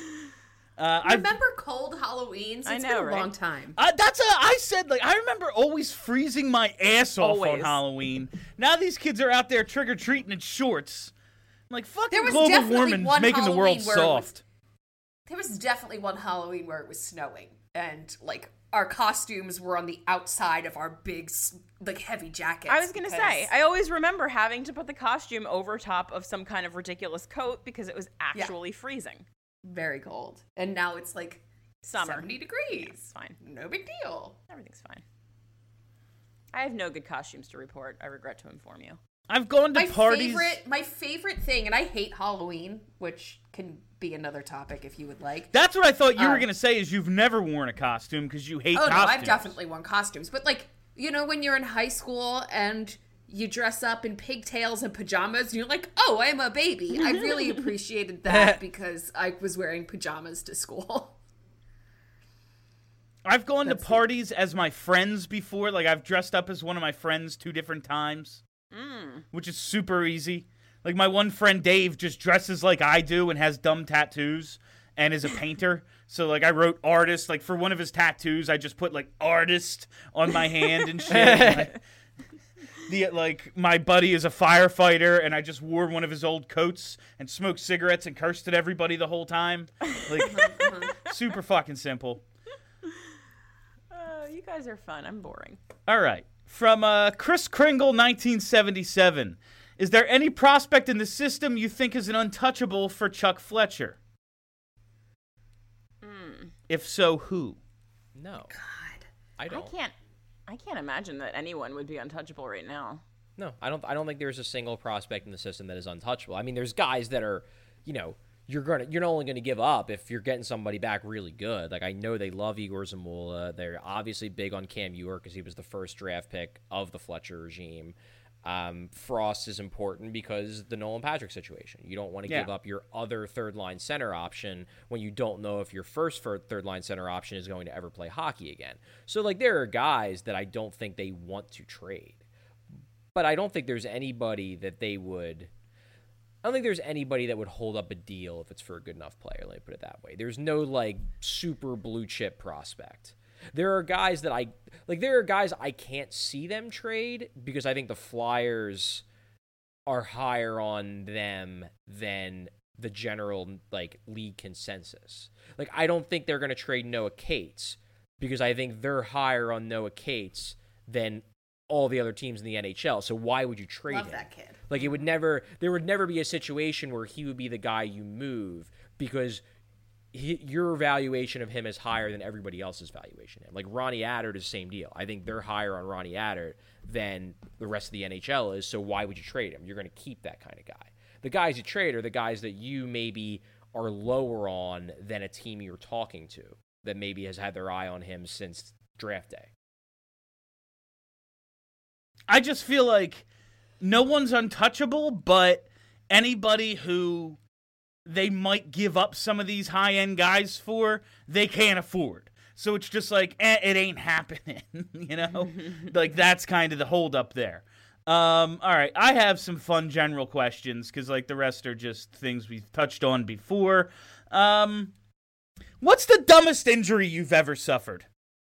I remember cold Halloweens. I It's know, been a right? long time. I said, like, I remember always freezing my ass off on Always. Halloween. Now these kids are out there trick-or-treating in shorts. I'm like, fucking There was global definitely warming's one making the world Halloween where it was- soft. There was definitely one Halloween where it was snowing, and like our costumes were on the outside of our big, like heavy jackets. I was gonna say, I always remember having to put the costume over top of some kind of ridiculous coat because it was actually freezing. very cold, and now it's like Summer. 70 degrees. It's fine. No big deal. Everything's fine. I have no good costumes to report. I regret to inform you. I've gone to parties. My favorite thing, and I hate Halloween, which can be another topic if you would like. That's what I thought you were going to say is you've never worn a costume because you hate Oh no, costumes. I've definitely worn costumes, but like, you know, when you're in high school and you dress up in pigtails and pajamas, and you're like, oh, I'm a baby. I really appreciated that because I was wearing pajamas to school. I've gone to parties as my friends before. Like, I've dressed up as one of my friends 2 different times, which is super easy. Like, my one friend, Dave, just dresses like I do and has dumb tattoos and is a painter. So, like, I wrote artist. Like, for one of his tattoos, I just put, like, artist on my hand and shit. My buddy is a firefighter, and I just wore one of his old coats and smoked cigarettes and cursed at everybody the whole time. Like, super fucking simple. You guys are fun. I'm boring. All right. From Chris Kringle, 1977. Is there any prospect in the system you think is an untouchable for Chuck Fletcher? If so, who? no. God. I don't. I can't imagine that anyone would be untouchable right now. No, I don't think there's a single prospect in the system that is untouchable. I mean, there's guys that are, you know, you're not only gonna give up if you're getting somebody back really good. Like I know they love Igor Zamula. They're obviously big on Cam Ewert because he was the first draft pick of the Fletcher regime. Frost is important because the Nolan Patrick situation. You don't want to give up your other third-line center option when you don't know if your first third-line center option is going to ever play hockey again. So, like, there are guys that I don't think they want to trade. But I don't think there's anybody that they would... I don't think there's anybody that would hold up a deal if it's for a good enough player. Let me put it that way. There's no, like, super blue-chip prospect. There are guys I can't see them trade because I think the Flyers are higher on them than the general like league consensus. Like I don't think they're going to trade Noah Cates because I think they're higher on Noah Cates than all the other teams in the NHL. So why would you trade him? Love that kid. Like there would never be a situation where he would be the guy you move because your valuation of him is higher than everybody else's valuation. Like Ronnie Attard is the same deal. I think they're higher on Ronnie Attard than the rest of the NHL is, so why would you trade him? You're going to keep that kind of guy. The guys you trade are the guys that you maybe are lower on than a team you're talking to that maybe has had their eye on him since draft day. I just feel like no one's untouchable, but anybody who they might give up some of these high-end guys for, they can't afford. So it's just like, it ain't happening, you know? Like, that's kind of the holdup there. All right, I have some fun general questions, because, like, the rest are just things we've touched on before. What's the dumbest injury you've ever suffered?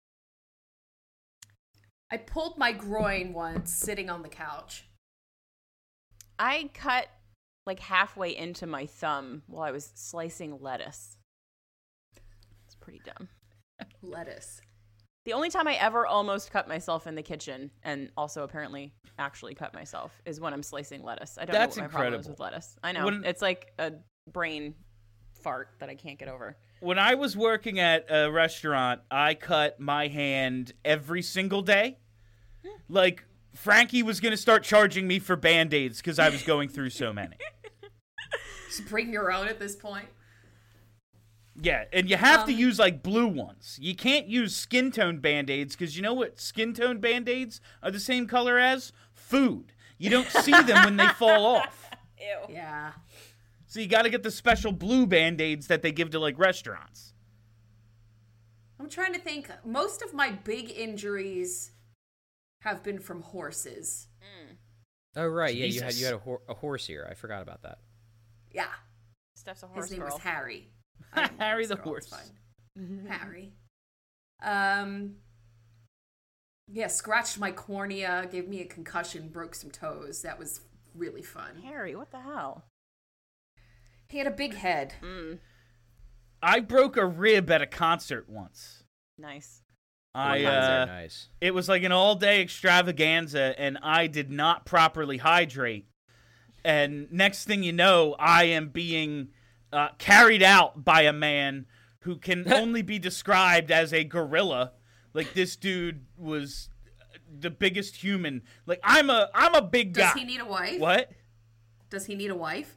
I pulled my groin once sitting on the couch. I cut like halfway into my thumb while I was slicing lettuce. It's pretty dumb. Lettuce. The only time I ever almost cut myself in the kitchen, and also apparently actually cut myself, is when I'm slicing lettuce. I don't That's know what my problem is incredible. with lettuce. I know. It's like a brain fart that I can't get over. When I was working at a restaurant, I cut my hand every single day. Like, Frankie was going to start charging me for Band-Aids because I was going through so many. Just bring your own at this point. Yeah, and you have to use, like, blue ones. You can't use skin tone Band-Aids because you know what skin tone Band-Aids are the same color as? Food. You don't see them when they fall off. Ew. Yeah. So you got to get the special blue Band-Aids that they give to, like, restaurants. I'm trying to think. Most of my big injuries have been from horses. Oh, right. Jesus. Yeah, you had a horse here. I forgot about that. Yeah. Steph's a horse His name girl. was Harry. I am a Harry the girl, it's horse. fine. Harry. Yeah, scratched my cornea, gave me a concussion, broke some toes. That was really fun. Harry, what the hell? He had a big head. I broke a rib at a concert once. Nice. Nice. It was like an all-day extravaganza, and I did not properly hydrate. And next thing you know, I am being carried out by a man who can only be described as a gorilla. Like, this dude was the biggest human. Like, I'm a big guy. Does he need a wife? What? Does he need a wife?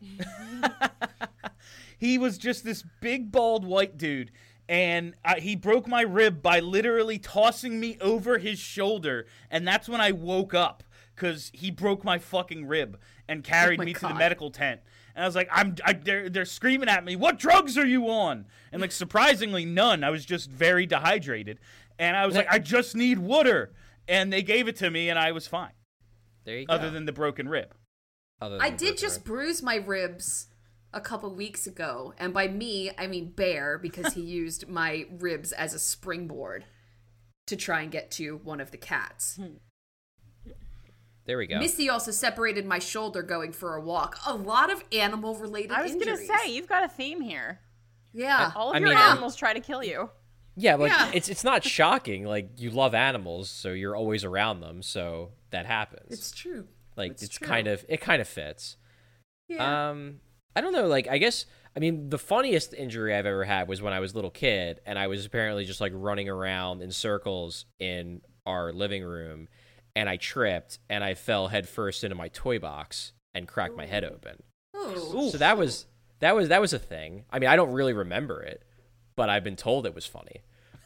He was just this big, bald, white dude. And he broke my rib by literally tossing me over his shoulder. And that's when I woke up, because he broke my fucking rib and carried me to the medical tent. And I was like, they're screaming at me, "What drugs are you on?" And, like, surprisingly, none. I was just very dehydrated. And I was like, "I just need water." And they gave it to me, and I was fine. There you go. Other than the broken rib. I did just bruise my ribs a couple weeks ago, and by me I mean Bear, because he used my ribs as a springboard to try and get to one of the cats. There we go. Missy also separated my shoulder going for a walk. A lot of animal related I was injuries. gonna say, you've got a theme here. Yeah. All of I your mean, animals try to kill you. Yeah, but Yeah. it's not shocking. Like, you love animals, so you're always around them, so that happens. It's true. Like, It's it's true. kind of fits. Yeah. I don't know, like, I mean, the funniest injury I've ever had was when I was a little kid, and I was apparently just, like, running around in circles in our living room, and I tripped, and I fell headfirst into my toy box and cracked my head open. Oh. So that was That was a thing. I mean, I don't really remember it, but I've been told it was funny.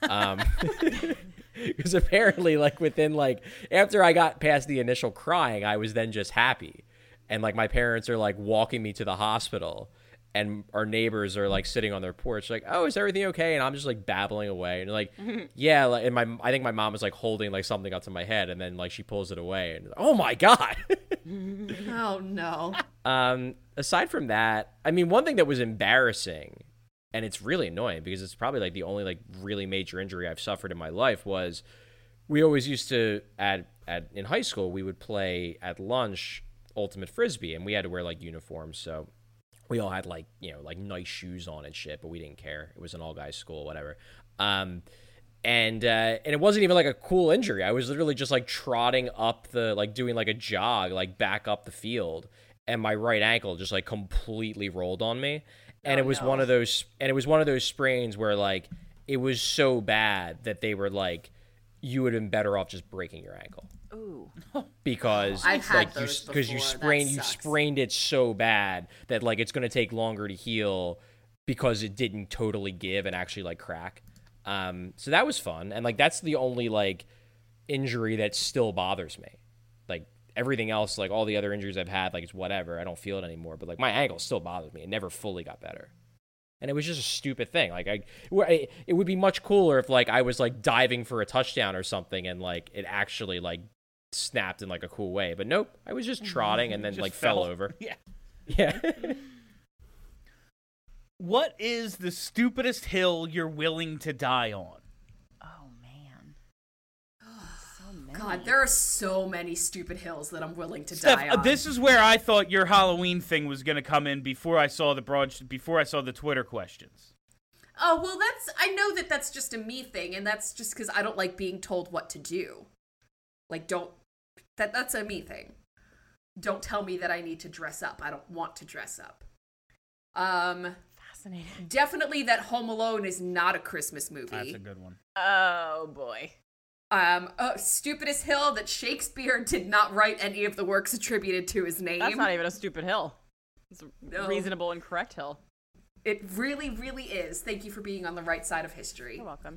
Because apparently, like, within, like, after I got past the initial crying, I was then just happy. And, like, my parents are, like, walking me to the hospital, and our neighbors are, like, sitting on their porch, like, oh, is everything okay? And I'm just, like, babbling away. And, like, yeah, like, and I think my mom was, like, holding, like, something up to my head, and then, like, she pulls it away. And, oh, my God. Oh, no. Aside from that, I mean, one thing that was embarrassing, and it's really annoying because it's probably like the only like really major injury I've suffered in my life, was we always used to in high school we would play at lunch ultimate frisbee, and we had to wear like uniforms, so we all had like, you know, like nice shoes on and shit, but we didn't care. It was an all guys school, whatever. And it wasn't even like a cool injury. I was literally just like trotting up the, like doing like a jog, like back up the field, and my right ankle just like completely rolled on me. And it was one of those sprains where like it was so bad that they were like, you would have been better off just breaking your ankle. Ooh. Because I've had like those you before. That sucks. sprained it so bad that like it's going to take longer to heal because it didn't totally give and actually like crack. So that was fun, and like that's the only like injury that still bothers me. Like everything else, like all the other injuries I've had, like it's whatever, I don't feel it anymore, but like my ankle still bothers me. It never fully got better, and it was just a it thing. Like it would be much cooler if like I was like diving for a touchdown or something and like it actually like snapped in like a cool way, but nope, I was just trotting and then Just like fell over. Yeah. Yeah. What is the stupidest hill you're willing to die on? Oh man. So many. God, there are so many stupid hills that I'm willing to Steph, die on. this is where I thought your Halloween thing was going to come in before I saw the Twitter questions. Oh, well, I know that that's just a me thing, and that's just because I don't like being told what to do. Like, that's a me thing. Don't tell me that I need to dress up. I don't want to dress up. Fascinating. Definitely that Home Alone is not a Christmas movie. That's a good one. Oh boy. Stupidest hill that Shakespeare did not write any of the works attributed to his name. That's not even a stupid hill. It's a No. reasonable and correct hill. It really, really is. Thank you for being on the right side of history. You're welcome.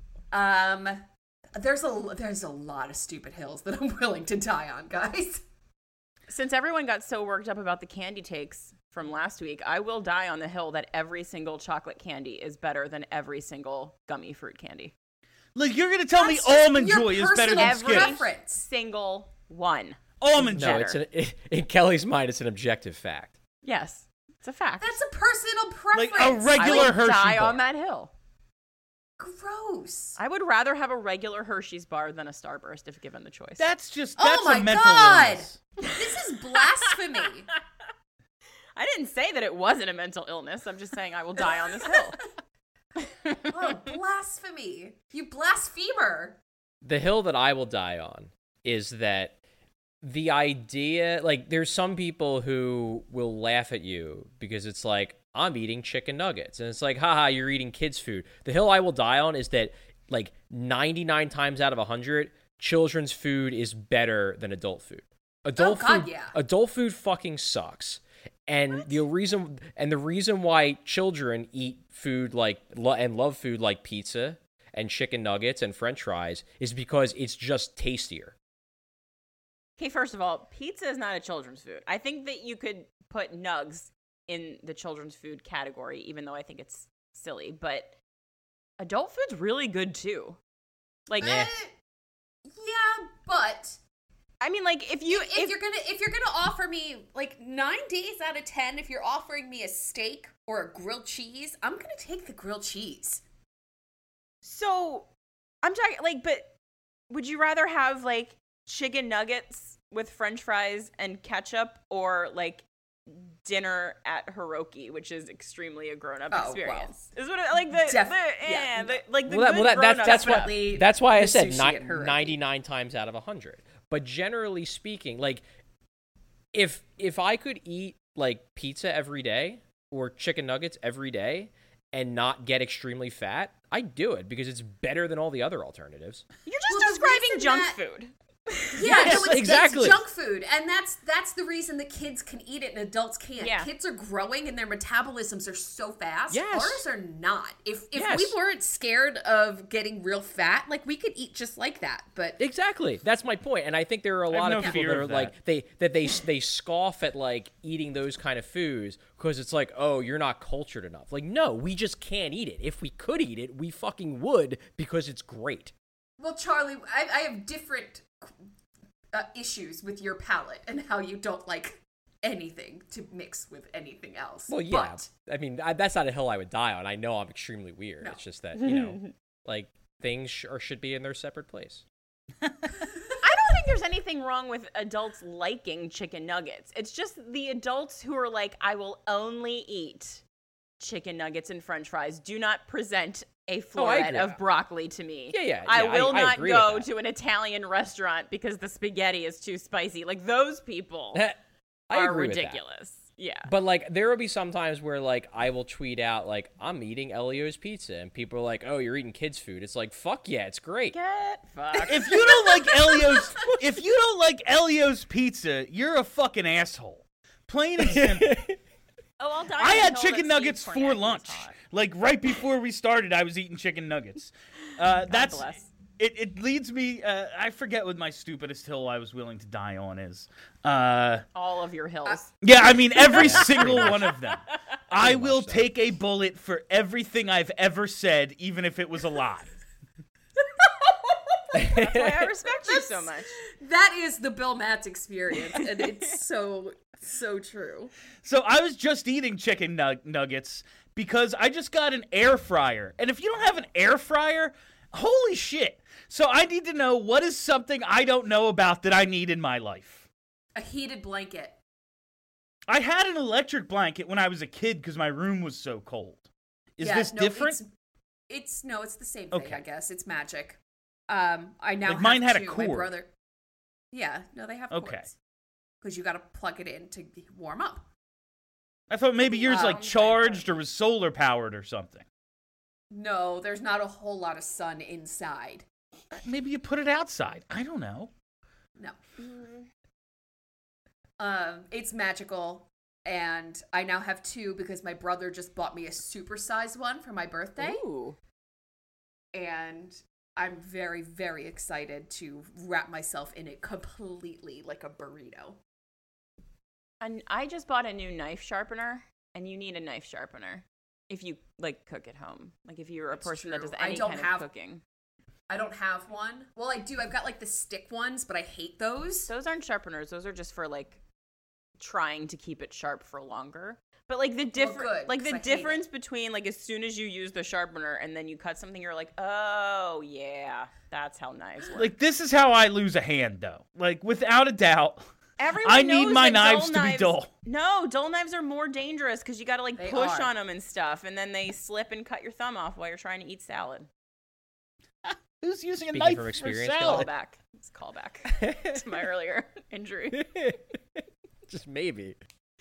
There's a lot of stupid hills that I'm willing to die on, guys. Since everyone got so worked up about the candy takes from last week, I will die on the hill that every single chocolate candy is better than every single gummy fruit candy. Like, you're going to tell me That's just Almond your Joy is better than personal Skittles? preference. Single one. Almond No, Joy. it's in Kelly's mind, it's an objective fact. Yes, it's a fact. That's a personal preference. Like a regular I would Hershey die bar. on that hill. Gross. I would rather have a regular Hershey's bar than a Starburst if given the choice. That's Oh a my mental God. illness. This is blasphemy. I didn't say that it wasn't a mental illness. I'm just saying I will die on this hill. Oh, blasphemy. You blasphemer. The hill that I will die on is that the idea, like, there's some people who will laugh at you because it's like, I'm eating chicken nuggets. And it's like, haha, you're eating kids' food. The hill I will die on is that, like, 99 times out of 100, children's food is better than adult food. Adult food fucking sucks. And the reason why children eat food like and love food like pizza and chicken nuggets and French fries is because it's just tastier. Okay, first of all, pizza is not a children's food. I think that you could put nugs in the children's food category, even though I think it's silly. But adult food's really good too. Like, Yeah, but I mean, like if you're gonna offer me like 9 days out of 10, if you're offering me a steak or a grilled cheese, I'm gonna take the grilled cheese. So I'm talking like, but would you rather have like chicken nuggets with French fries and ketchup, or like dinner at Hiroki, which is extremely a grown-up experience? Is what it, like the That's why I said sushi at Hiroki. 99 times out of 100. But generally speaking, like if I could eat like pizza every day or chicken nuggets every day and not get extremely fat, I'd do it because it's better than all the other alternatives. You're just Well, the describing reason junk that- food. Yeah, Yes, no, exactly. it's junk food, and that's the reason that kids can eat it and adults can't. Yeah. Kids are growing and their metabolisms are so fast. Yes. Ours are not. If Yes. we weren't scared of getting real fat, like we could eat just like that. But Exactly. That's my point. And I think there are a have lot no of people fear that are of like they scoff at like eating those kind of foods because it's like, oh, you're not cultured enough. Like, no, we just can't eat it. If we could eat it, we fucking would because it's great. well, Charlie, I have different issues with your palate and how you don't like anything to mix with anything else. Well, yeah. But I mean, that's not a hill I would die on. I know I'm extremely weird. No. It's just that, you know, like things should be in their separate place. I don't think there's anything wrong with adults liking chicken nuggets. It's just the adults who are like, I will only eat chicken nuggets and french fries. Do not present a floret agree. of broccoli to me. Yeah, I yeah, will I not agree go with that. to an Italian restaurant because the spaghetti is too spicy. Like, those people I are agree with that. ridiculous. Yeah. But like there will be some times where like I will tweet out like I'm eating Elio's pizza and people are like, "Oh, you're eating kids' food." It's like, "Fuck yeah, it's great." Get fucked. If you don't like Elio's pizza, you're a fucking asshole. Plain and simple. Oh, I'll die I had until chicken that nuggets Steve for Kornacki is lunch. hot. Like right before we started, I was eating chicken nuggets. That's bless. it. Leads me. I forget what my stupidest hill I was willing to die on is. All of your hills. Yeah, I mean every single one of them. I will take a bullet for everything I've ever said, even if it was a lie. That's why I respect you so much. that is the Bill Matz experience, and it's so true. So I was just eating chicken nuggets because I just got an air fryer. And if you don't have an air fryer, holy shit. So I need to know what is something I don't know about that I need in my life. A heated blanket. I had an electric blanket when I was a kid because my room was so cold. Is Yeah, this no, different? It's the same thing. Okay. I guess it's magic. I now Like, have mine had a two. cord. My brother. Yeah, no, they have Okay. cords. Because you got to plug it in to warm up. I thought maybe yours like Okay. charged or was solar powered or something. No, there's not a whole lot of sun inside. Maybe you put it outside. I don't know. No. It's magical, and I now have two because my brother just bought me a supersized one for my birthday, Ooh. and I'm very, very excited to wrap myself in it completely like a burrito. And I just bought a new knife sharpener, and you need a knife sharpener if you like cook at home. Like if you're a That's person that true. does I any don't kind have- of cooking. I don't have one. Well, I do. I've got like the stick ones, but I hate those. Those aren't sharpeners. Those are just for like trying to keep it sharp for longer. But like the good, 'cause I hate difference between like as soon as you use the sharpener and then you cut something, you're like, oh yeah, that's how knives work. Like this is how I lose a hand though. Like without a doubt. Everyone I need knows my that knives dull to be knives- dull. No, dull knives are more dangerous because you got to like They push are. on them and stuff, and then they slip and cut your thumb off while you're trying to eat salad. Who's using a Speaking knife from for experience, salad? Callback. It's a callback to my earlier injury. Just maybe.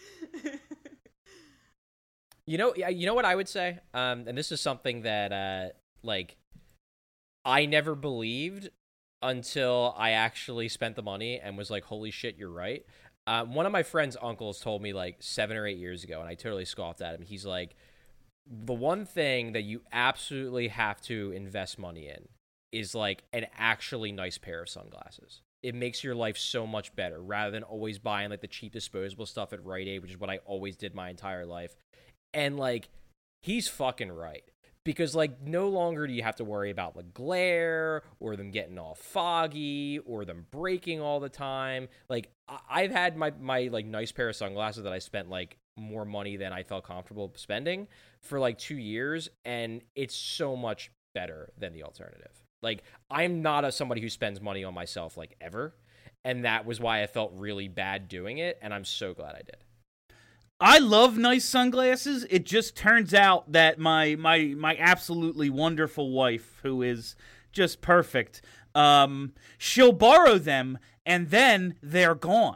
You know what I would say? And this is something that like I never believed until I actually spent the money and was like, holy shit, you're right. One of my friend's uncles told me like 7 or 8 years ago, and I totally scoffed at him. He's like, the one thing that you absolutely have to invest money in is like an actually nice pair of sunglasses. It makes your life so much better rather than always buying like the cheap disposable stuff at Rite Aid, which is what I always did my entire life. And like, he's fucking right. Because like, no longer do you have to worry about the glare or them getting all foggy or them breaking all the time. Like, I've had my like nice pair of sunglasses that I spent like more money than I felt comfortable spending for like 2 years, and it's so much better than the alternative. Like, I'm not somebody who spends money on myself like ever, and that was why I felt really bad doing it, and I'm so glad I did. I love nice sunglasses. It just turns out that my absolutely wonderful wife, who is just perfect, she'll borrow them and then they're gone.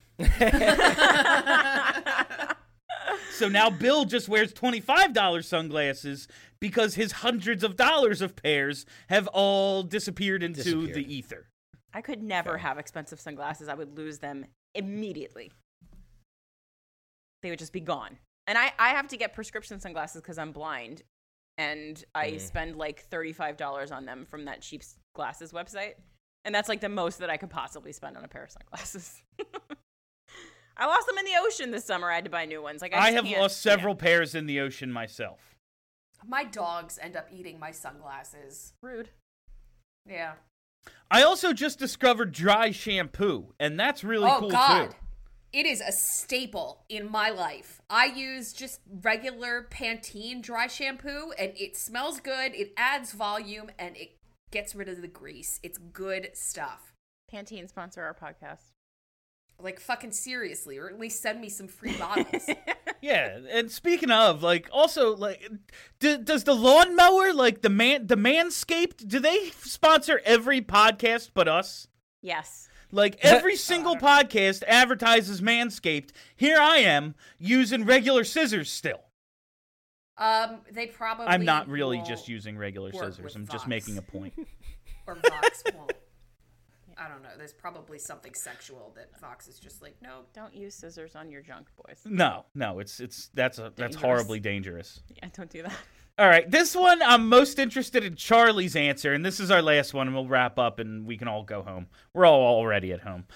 So now Bill just wears $25 sunglasses because his hundreds of dollars of pairs have all disappeared into the ether. I could never have expensive sunglasses. I would lose them immediately. They would just be gone. And I have to get prescription sunglasses because I'm blind. And I spend like $35 on them from that cheap glasses website. And that's like the most that I could possibly spend on a pair of sunglasses. I lost them in the ocean this summer. I had to buy new ones. Like I have lost several pairs in the ocean myself. My dogs end up eating my sunglasses. Rude. Yeah. I also just discovered dry shampoo, and that's really cool God. too. It is a staple in my life. I use just regular Pantene dry shampoo, and it smells good, it adds volume, and it gets rid of the grease. It's good stuff. Pantene sponsor our podcast. Like, fucking seriously, or at least send me some free bottles. Yeah, and speaking of, like, also, like, does the lawnmower, like, the Manscaped, do they sponsor every podcast but us? Yes. Like, every single podcast advertises Manscaped. Here I am, using regular scissors still. They probably I'm not really won't just using regular work scissors. with I'm just Vox. making a point. Or Vox won't. I don't know. There's probably something sexual that Vox is just like, no. Don't use scissors on your junk, boys. No, that's horribly dangerous. Yeah, don't do that. All right, this one I'm most interested in Charlie's answer, and this is our last one, and we'll wrap up and we can all go home. We're all already at home.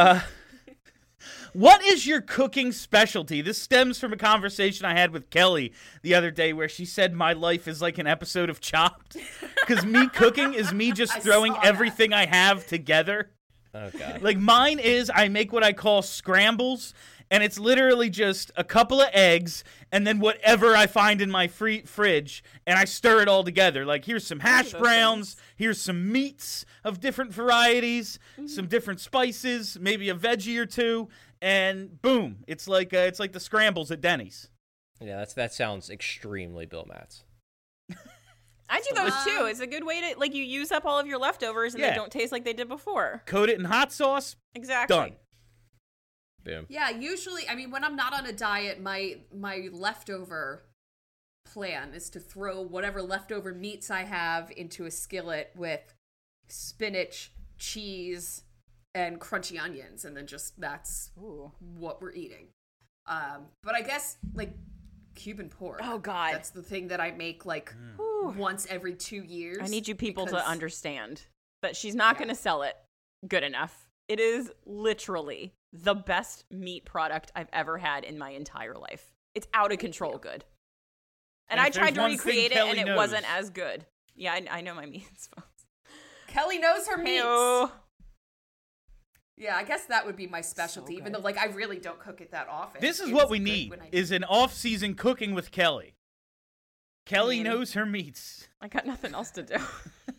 What is your cooking specialty? This stems from a conversation I had with Kelly the other day where she said my life is like an episode of Chopped. Because me cooking is me just throwing everything I have together. Oh, God. Like mine is I make what I call scrambles, and it's literally just a couple of eggs and then whatever I find in my fridge, and I stir it all together. Like, here's some hash browns, here's some meats of different varieties, some different spices, maybe a veggie or two, and boom, it's like the scrambles at Denny's. Yeah, that sounds extremely Bill Matz. I do those too. It's a good way to, like, you use up all of your leftovers and they don't taste like they did before. Coat it in hot sauce. Exactly. Done. Boom. Yeah, usually, I mean, when I'm not on a diet, my leftover plan is to throw whatever leftover meats I have into a skillet with spinach, cheese, and crunchy onions, and then just that's what we're eating. But I guess, like, Cuban pork. Oh, God. That's the thing that I make, like, once every 2 years. I need you people to understand that she's not going to sell it good enough. It is literally the best meat product I've ever had in my entire life. It's out of control good. And I tried to recreate it, and it wasn't as good. Yeah, I know my meats, folks. Kelly knows her meats. Heyo. Yeah, I guess that would be my specialty, even though, like, I really don't cook it that often. This is It's what we good need, when I is an off-season cooking with Kelly. Kelly knows her meats. I got nothing else to do.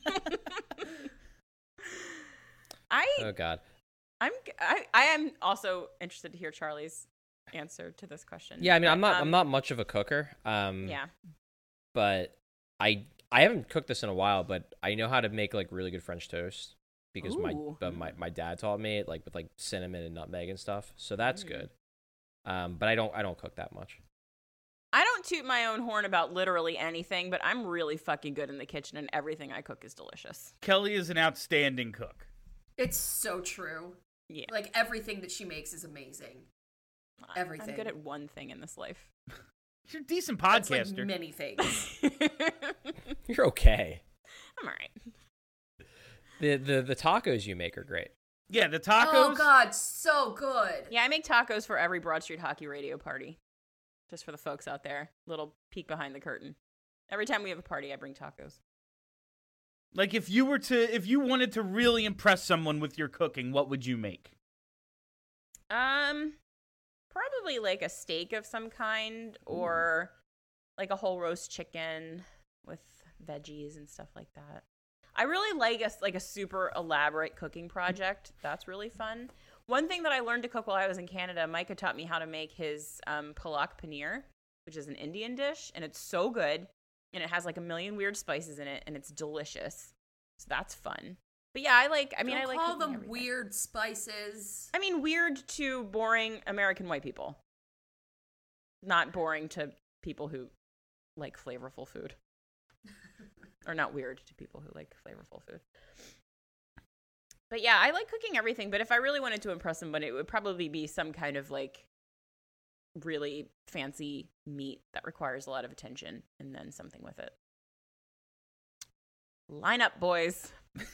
Oh, God. I am also interested to hear Charlie's answer to this question. Yeah, I mean, I'm not much of a cooker. Yeah. But I haven't cooked this in a while, but I know how to make, like, really good French toast because my dad taught me it, like, with, like, cinnamon and nutmeg and stuff. So that's good. But I don't cook that much. I don't toot my own horn about literally anything, but I'm really fucking good in the kitchen, and everything I cook is delicious. Kelly is an outstanding cook. It's so true. Yeah. Like, everything that she makes is amazing. Everything. I'm good at one thing in this life. You're a decent That's, podcaster. like, many things. You're okay. I'm all right. The tacos you make are great. Yeah, the tacos. Oh, God, so good. Yeah, I make tacos for every Broad Street Hockey Radio party. Just for the folks out there. Little peek behind the curtain. Every time we have a party, I bring tacos. Like, if you wanted to really impress someone with your cooking, what would you make? Probably like a steak of some kind, or like a whole roast chicken with veggies and stuff like that. I really like a super elaborate cooking project. That's really fun. One thing that I learned to cook while I was in Canada, Micah taught me how to make his palak paneer, which is an Indian dish, and it's so good, and it has like a million weird spices in it, and it's delicious. So that's fun. But yeah, I like call cooking them everything. weird spices. I mean, weird to boring American white people. Not boring to people who like flavorful food. Or not weird to people who like flavorful food. But yeah, I like cooking everything. But if I really wanted to impress somebody, it would probably be some kind of like really fancy meat that requires a lot of attention, and then something with it. Line up, boys.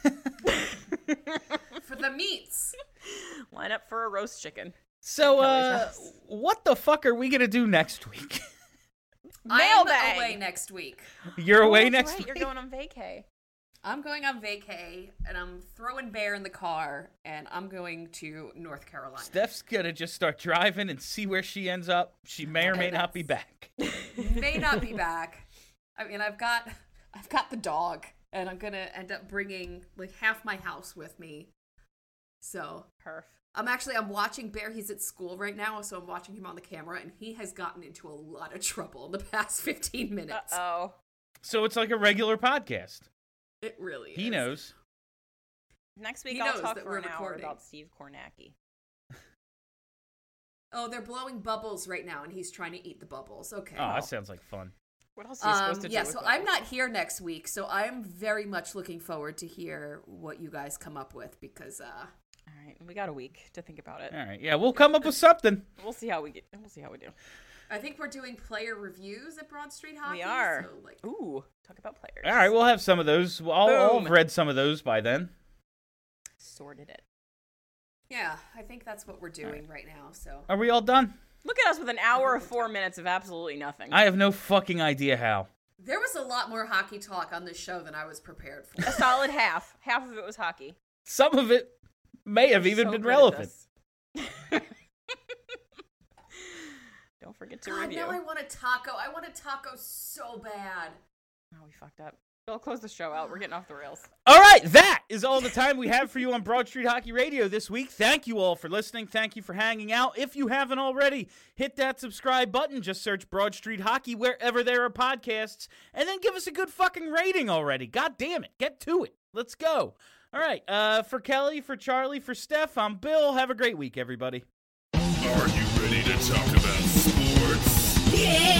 For the meats. Line up for a roast chicken. So, Kelly's house. what the fuck are we gonna do next week? I'm Mailbag. away next week. You're away That's next right, week? You're going on vacay. I'm going on vacay, and I'm throwing Bear in the car, and I'm going to North Carolina. Steph's gonna just start driving and see where she ends up. She may or may not be back. May not be back. I mean, I've got the dog, and I'm gonna end up bringing like half my house with me. So Perf. I'm watching Bear. He's at school right now, so I'm watching him on the camera, and he has gotten into a lot of trouble in the past 15 minutes. Uh-oh. So it's like a regular podcast. It really is. He knows. Next week He I'll knows talk that for we're an hour recording. about Steve Kornacki. Oh, they're blowing bubbles right now, and he's trying to eat the bubbles. Okay. Oh, that sounds like fun. What else are you supposed to do? Yeah, with so those? I'm not here next week, so I'm very much looking forward to hear what you guys come up with because All right, we got a week to think about it. All right, yeah, we'll come up with something. We'll see how we do. I think we're doing player reviews at Broad Street Hockey. We are. So, like, Ooh, talk about players. All right, we'll have some of those. I'll Boom. have read some of those by then. Sorted it. yeah, I think that's what we're doing right now. So Are we all done? Look at us with an hour of 4 minutes of absolutely nothing. I have no fucking idea how. there was a lot more hockey talk on this show than I was prepared for. A solid half. Half of it was hockey. Some of it may have even So been good at relevant. this. Don't forget to God, review. now I want a taco. I want a taco so bad. Oh, we fucked up. Bill, close the show out. We're getting off the rails. All right, that is all the time we have for you on Broad Street Hockey Radio this week. Thank you all for listening. Thank you for hanging out. If you haven't already, hit that subscribe button. Just search Broad Street Hockey wherever there are podcasts, and then give us a good fucking rating already. God damn it. Get to it. Let's go. All right, for Kelly, for Charlie, for Steph, I'm Bill. Have a great week, everybody. Are you ready to talk about sports? Yeah!